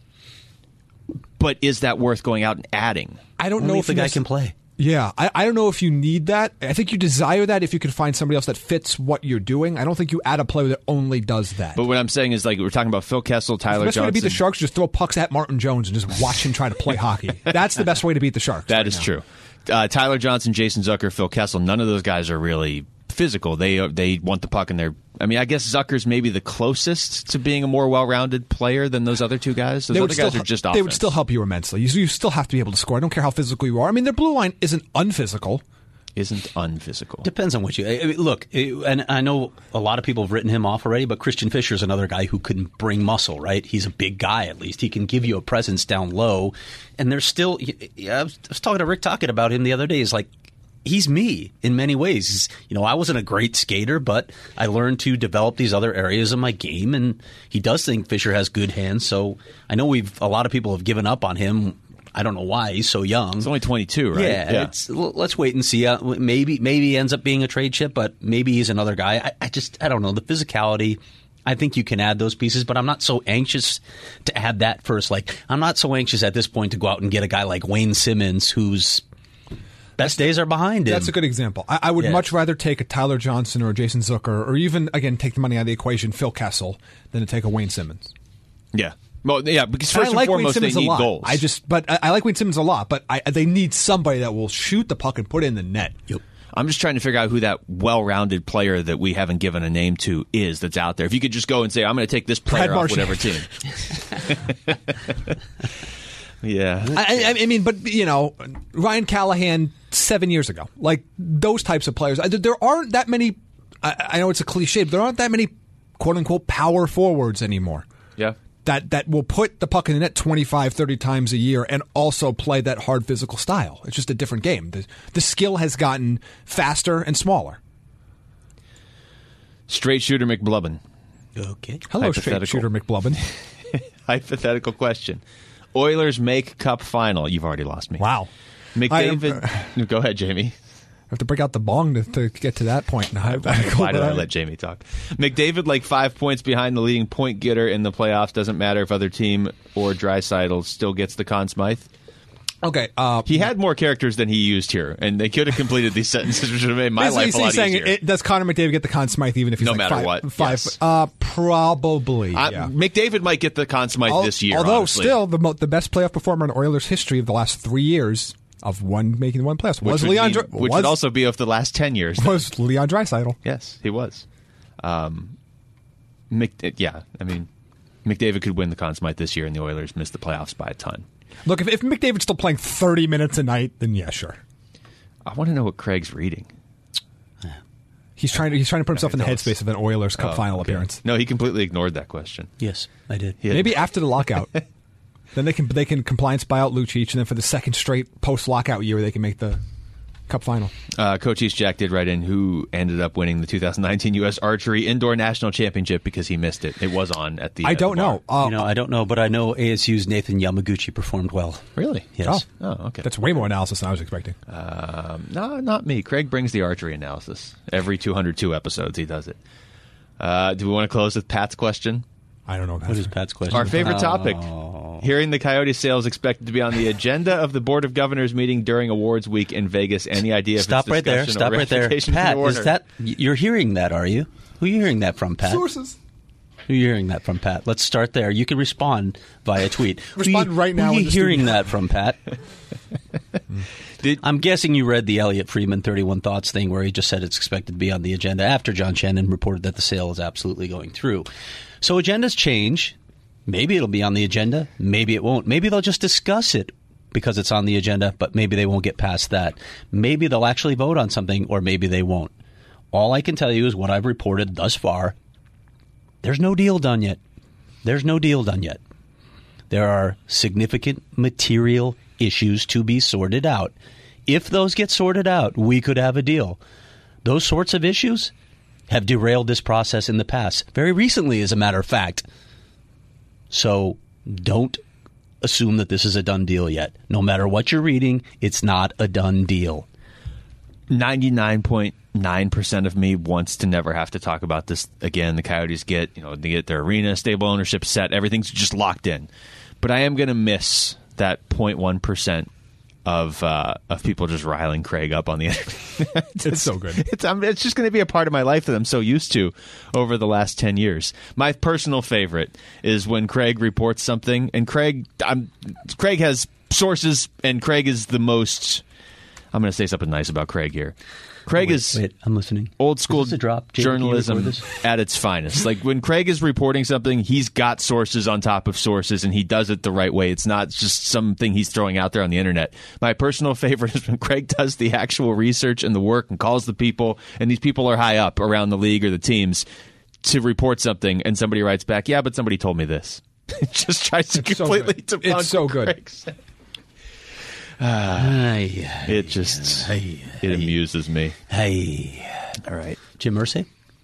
But is that worth going out and adding? I don't Only know if if the you guy necess- can play. Yeah, I, I don't know if you need that. I think you desire that if you can find somebody else that fits what you're doing. I don't think you add a player that only does that. But what I'm saying is, like, we're talking about Phil Kessel, the Tyler best way to Johnson. beat the Sharks is just throw pucks at Martin Jones and just watch him try to play hockey. That's the best way to beat the Sharks. That right is now. true. Uh, Tyler Johnson, Jason Zucker, Phil Kessel, none of those guys are really physical. They are, they want the puck in their... I mean, I guess Zucker's maybe the closest to being a more well-rounded player than those other two guys. Those They other would, still, guys are just they offense. would still help you immensely. You, you still have to be able to score. I don't care how physical you are. I mean, their blue line isn't unphysical. Isn't unphysical. Depends on what you I mean, look. it- And I know a lot of people have written him off already, but Christian Fisher's another guy who can bring muscle. Right? He's a big guy. At least he can give you a presence down low. And there's still. I was, I was talking to Rick Tocchet about him the other day. He's like, he's me in many ways. He's, you know, I wasn't a great skater, but I learned to develop these other areas of my game. And he does think Fisher has good hands. So I know we've a lot of people have given up on him. I don't know why he's so young. He's only twenty-two, right? Yeah, yeah. It's, let's wait and see. Uh, maybe maybe he ends up being a trade chip, but maybe he's another guy. I, I just I don't know the physicality. I think you can add those pieces, but I'm not so anxious to add that first. Like, I'm not so anxious at this point to go out and get a guy like Wayne Simmons, whose best days are behind him. That's a good example. I, I would Yeah. much rather take a Tyler Johnson or a Jason Zucker, or even, again, take the money out of the equation, Phil Kessel, than to take a Wayne Simmons. Yeah. Well, yeah, because And first I like and Wayne foremost, Simmons they a need lot. goals. I just, but I, I like Wayne Simmons a lot, but I, they need somebody that will shoot the puck and put it in the net. Yep. I'm just trying to figure out who that well-rounded player that we haven't given a name to is that's out there. If you could just go and say, I'm going to take this player Brad off whatever team. yeah. I, I, I mean, but, you know, Ryan Callahan seven years ago, like those types of players. I, there aren't that many, I, I know it's a cliche, but there aren't that many quote-unquote power forwards anymore. Yeah. That, that will put the puck in the net twenty-five, thirty times a year and also play that hard physical style. It's just a different game. The, the skill has gotten faster and smaller. Straight shooter McBlubbin. Okay. Hello, straight Hypothetical. shooter McBlubbin. Hypothetical question. Oilers make cup final. You've already lost me. Wow. McDavid. Go ahead, Jamie. I have to break out the bong to, to get to that point. Why did I let Jamie talk? McDavid, like five points behind the leading point getter in the playoffs. Doesn't matter if other team or Draisaitl still gets the Conn Smythe. Okay. Uh, He had more characters than he used here, and they could have completed these sentences, which would have made my basically life a lot he's saying, easier. it, does Connor McDavid get the Conn Smythe even if he's No like matter five, what, Five. yes. Uh, probably. I- yeah. McDavid might get the Conn Smythe Al- this year. Although honestly. still the mo- the best playoff performer in Oilers history of the last three years of one making one playoffs which was would, Leon. mean- Dr- which was, would also be of the last ten years. was Leon Draisaitl. Yes, he was. Um, Mc, yeah, I mean, McDavid could win the Conn Smythe this year, and the Oilers missed the playoffs by a ton. Look, if, if McDavid's still playing thirty minutes a night, then yeah, sure. I want to know what Craig's reading. He's trying to he's trying to put himself in the tell us. headspace of an Oilers Cup Oh, final okay. appearance. No, he completely ignored that question. Yes, I did. He had- Maybe after the lockout. Then they can they can compliance buy out Lucic, and then for the second straight post lockout year, they can make the Cup final. Uh, Coach East Jack did write in who ended up winning the two thousand nineteen U S Archery Indoor National Championship because he missed it. It was on at the. I uh, don't the bar. know. Uh, you know, I don't know, but I know A S U's Nathan Yamaguchi performed well. Really? Yes. Oh, okay. That's way more analysis than I was expecting. Um, no, not me. Craig brings the archery analysis every two hundred two episodes. He does it. Uh, do we want to close with Pat's question? I don't know. What is Pat's question? Our favorite topic. Oh. Hearing the Coyote sales expected to be on the agenda of the Board of Governors meeting during awards week in Vegas. Any idea if Stop it's right there. discussion or Stop right there. ratification Pat, from the is order? that you're hearing that? Are you? Who are you hearing that from, Pat? Sources. Who are you hearing that from, Pat? Let's start there. You can respond via tweet. Respond who you, right now Who are in you the hearing studio. that from, Pat? Did, I'm guessing you read the Elliot Freeman thirty-one Thoughts thing where he just said it's expected to be on the agenda after John Shannon reported that the sale is absolutely going through. So agendas change. Maybe it'll be on the agenda. Maybe it won't. Maybe they'll just discuss it because it's on the agenda, but maybe they won't get past that. Maybe they'll actually vote on something, or maybe they won't. All I can tell you is what I've reported thus far. There's no deal done yet. There's no deal done yet. There are significant material issues to be sorted out. If those get sorted out, we could have a deal. Those sorts of issues have derailed this process in the past. Very recently, as a matter of fact. So don't assume that this is a done deal yet. No matter what you're reading, it's not a done deal. ninety-nine point nine percent of me wants to never have to talk about this again. The Coyotes get, you know, they get their arena, stable ownership set. Everything's just locked in. But I am going to miss that zero point one percent of uh, of people just riling Craig up on the internet. it's, It's so good. It's, um, it's just going to be a part of my life that I'm so used to over the last ten years. My personal favorite is when Craig reports something, and Craig, I'm, Craig has sources, and Craig is the most. I'm going to say something nice about Craig here. Craig wait, is wait, I'm listening. old school Is this a drop? Jamie, can you journalism record this? at its finest. Like when Craig is reporting something, he's got sources on top of sources, and he does it the right way. It's not just something he's throwing out there on the internet. My personal favorite is when Craig does the actual research and the work and calls the people, and these people are high up around the league or the teams to report something, and somebody writes back, "Yeah, but somebody told me this." It just tries to It's so completely good. debunk It's so what good. Craig said. Hey, It just hey, it amuses me. hey. All right. Jim Irsay?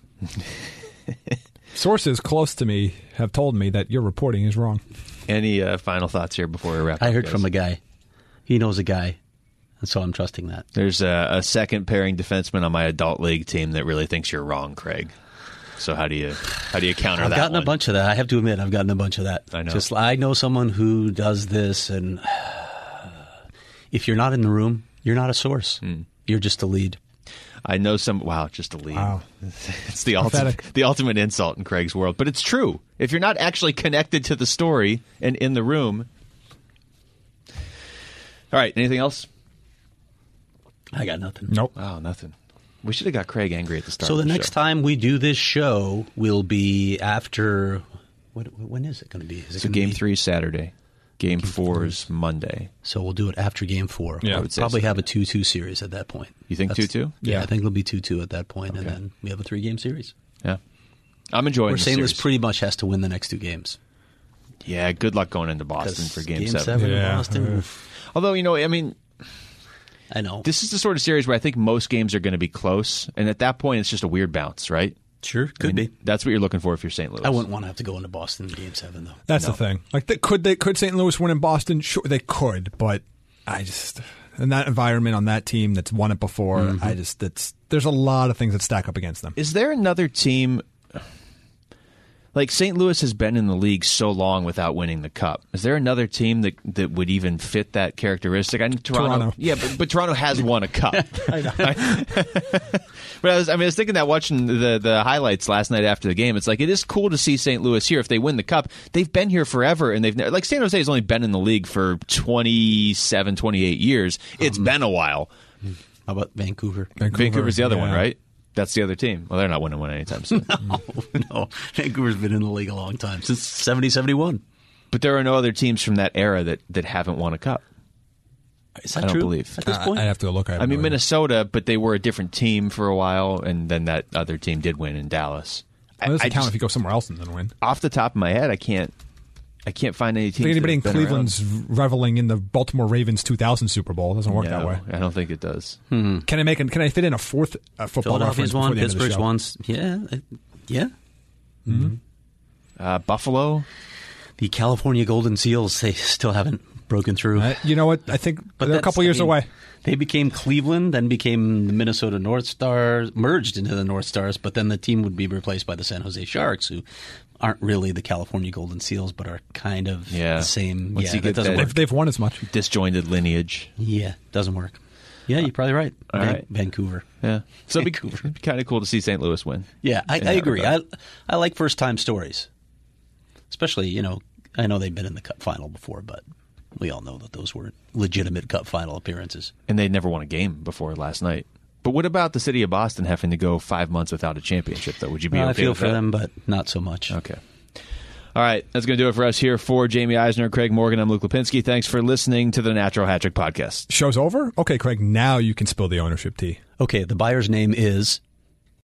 Sources close to me have told me that your reporting is wrong. Any uh, final thoughts here before we wrap up? I heard guys? from a guy. He knows a guy, and so I'm trusting that. There's a, a second pairing defenseman on my adult league team that really thinks you're wrong, Craig. So how do you how do you counter I've that? I've gotten one? a bunch of that. I have to admit, I've gotten a bunch of that. I know. Just I know someone who does this, and if you're not in the room, you're not a source. Hmm. You're just a lead. I know some. Wow, just a lead. Wow. It's the ultimate, Pathetic. the ultimate insult in Craig's world. But it's true. If you're not actually connected to the story and in the room. All right. Anything else? I got nothing. Nope. Wow, nothing. We should have got Craig angry at the start. So of the the next show. time we do this show will be after. What, when is it going to be? Is it So gonna game be, three Saturday. Game four is Monday. So we'll do it after game four. Yeah, I we'll would say probably so. have a two two series at that point. You think That's- two two? Yeah, Yeah. I think it'll be two two at that point, and Okay. then we have a three game series. Yeah. I'm enjoying Where the Saint Louis series. pretty much has to win the next two games. Yeah, good luck going into Boston 'Cause for game, game seven. seven in Yeah. Boston. Uh, oof. Although, you know, I mean, I know. this is the sort of series where I think most games are going to be close. And at that point, it's just a weird bounce, right? Sure, could I mean, be. That's what you're looking for if you're Saint Louis. I wouldn't want to have to go into Boston in game seven, though. That's No. the thing. Like, they, could they could Saint Louis win in Boston? Sure, they could, but I just in that environment on that team that's won it before, Mm-hmm. I just that's there's a lot of things that stack up against them. Is there another team like Saint Louis has been in the league so long without winning the cup? Is there another team that that would even fit that characteristic? I know Toronto, Toronto. yeah, but, but Toronto has won a cup. I know. But I was, I mean, I was thinking that watching the the highlights last night after the game, it's like it is cool to see Saint Louis here. If they win the cup, they've been here forever, and they've ne- like San Jose has only been in the league for twenty-seven, twenty-eight years. It's Um, been a while. How about Vancouver? Vancouver, Vancouver's the other one, yeah. right? That's the other team. Well, they're not winning one anytime soon. No, no. Vancouver's been in the league a long time, since seventy, seventy-one. But there are no other teams from that era that, that haven't won a cup. Is that I don't true? believe. At this Uh, point? I'd have to go look at it. I mean, Minnesota, but they were a different team for a while, and then that other team did win in Dallas. It doesn't I count just- if you go somewhere else and then win. off the top of my head, I can't. I can't find any I teams. think anybody in that have been Cleveland's reveling in the Baltimore Ravens two thousand Super Bowl. It doesn't work around. that way. No, I don't think it does. Can I make? An, can I fit in a fourth uh, football reference Philadelphia's before won. the end of the Pittsburgh's show? won. Yeah, uh, yeah. Uh, Buffalo. The California Golden Seals, they still haven't broken through. Uh, you know what? I think But they're a that's- couple I years mean, away. They became Cleveland, then became the Minnesota North Stars, merged into the North Stars, but then the team would be replaced by the San Jose Sharks, who aren't really the California Golden Seals, but are kind of Yeah. the same. Once yeah, you that get doesn't that- work. They've, they've won as much. Disjointed lineage. Yeah, doesn't work. Yeah, you're probably right. All Van- right. Vancouver. Yeah. So it'd be, Vancouver. it'd be kind of cool to see Saint Louis win. Yeah, I, in I that agree. I regard. I like first time stories, especially you know I know they've been in the Cup final before, but we all know that those were legitimate Cup final appearances. And they'd never won a game before last night. But what about the city of Boston having to go five months without a championship, though? Would you be Well, okay I feel with for that? them, but not so much. Okay. All right. That's going to do it for us here. For Jamie Eisner, Craig Morgan, I'm Luke Lipinski. Thanks for listening to the Natural Hat Trick Podcast. Show's over? Okay, Craig, now you can spill the ownership tea. Okay, the buyer's name is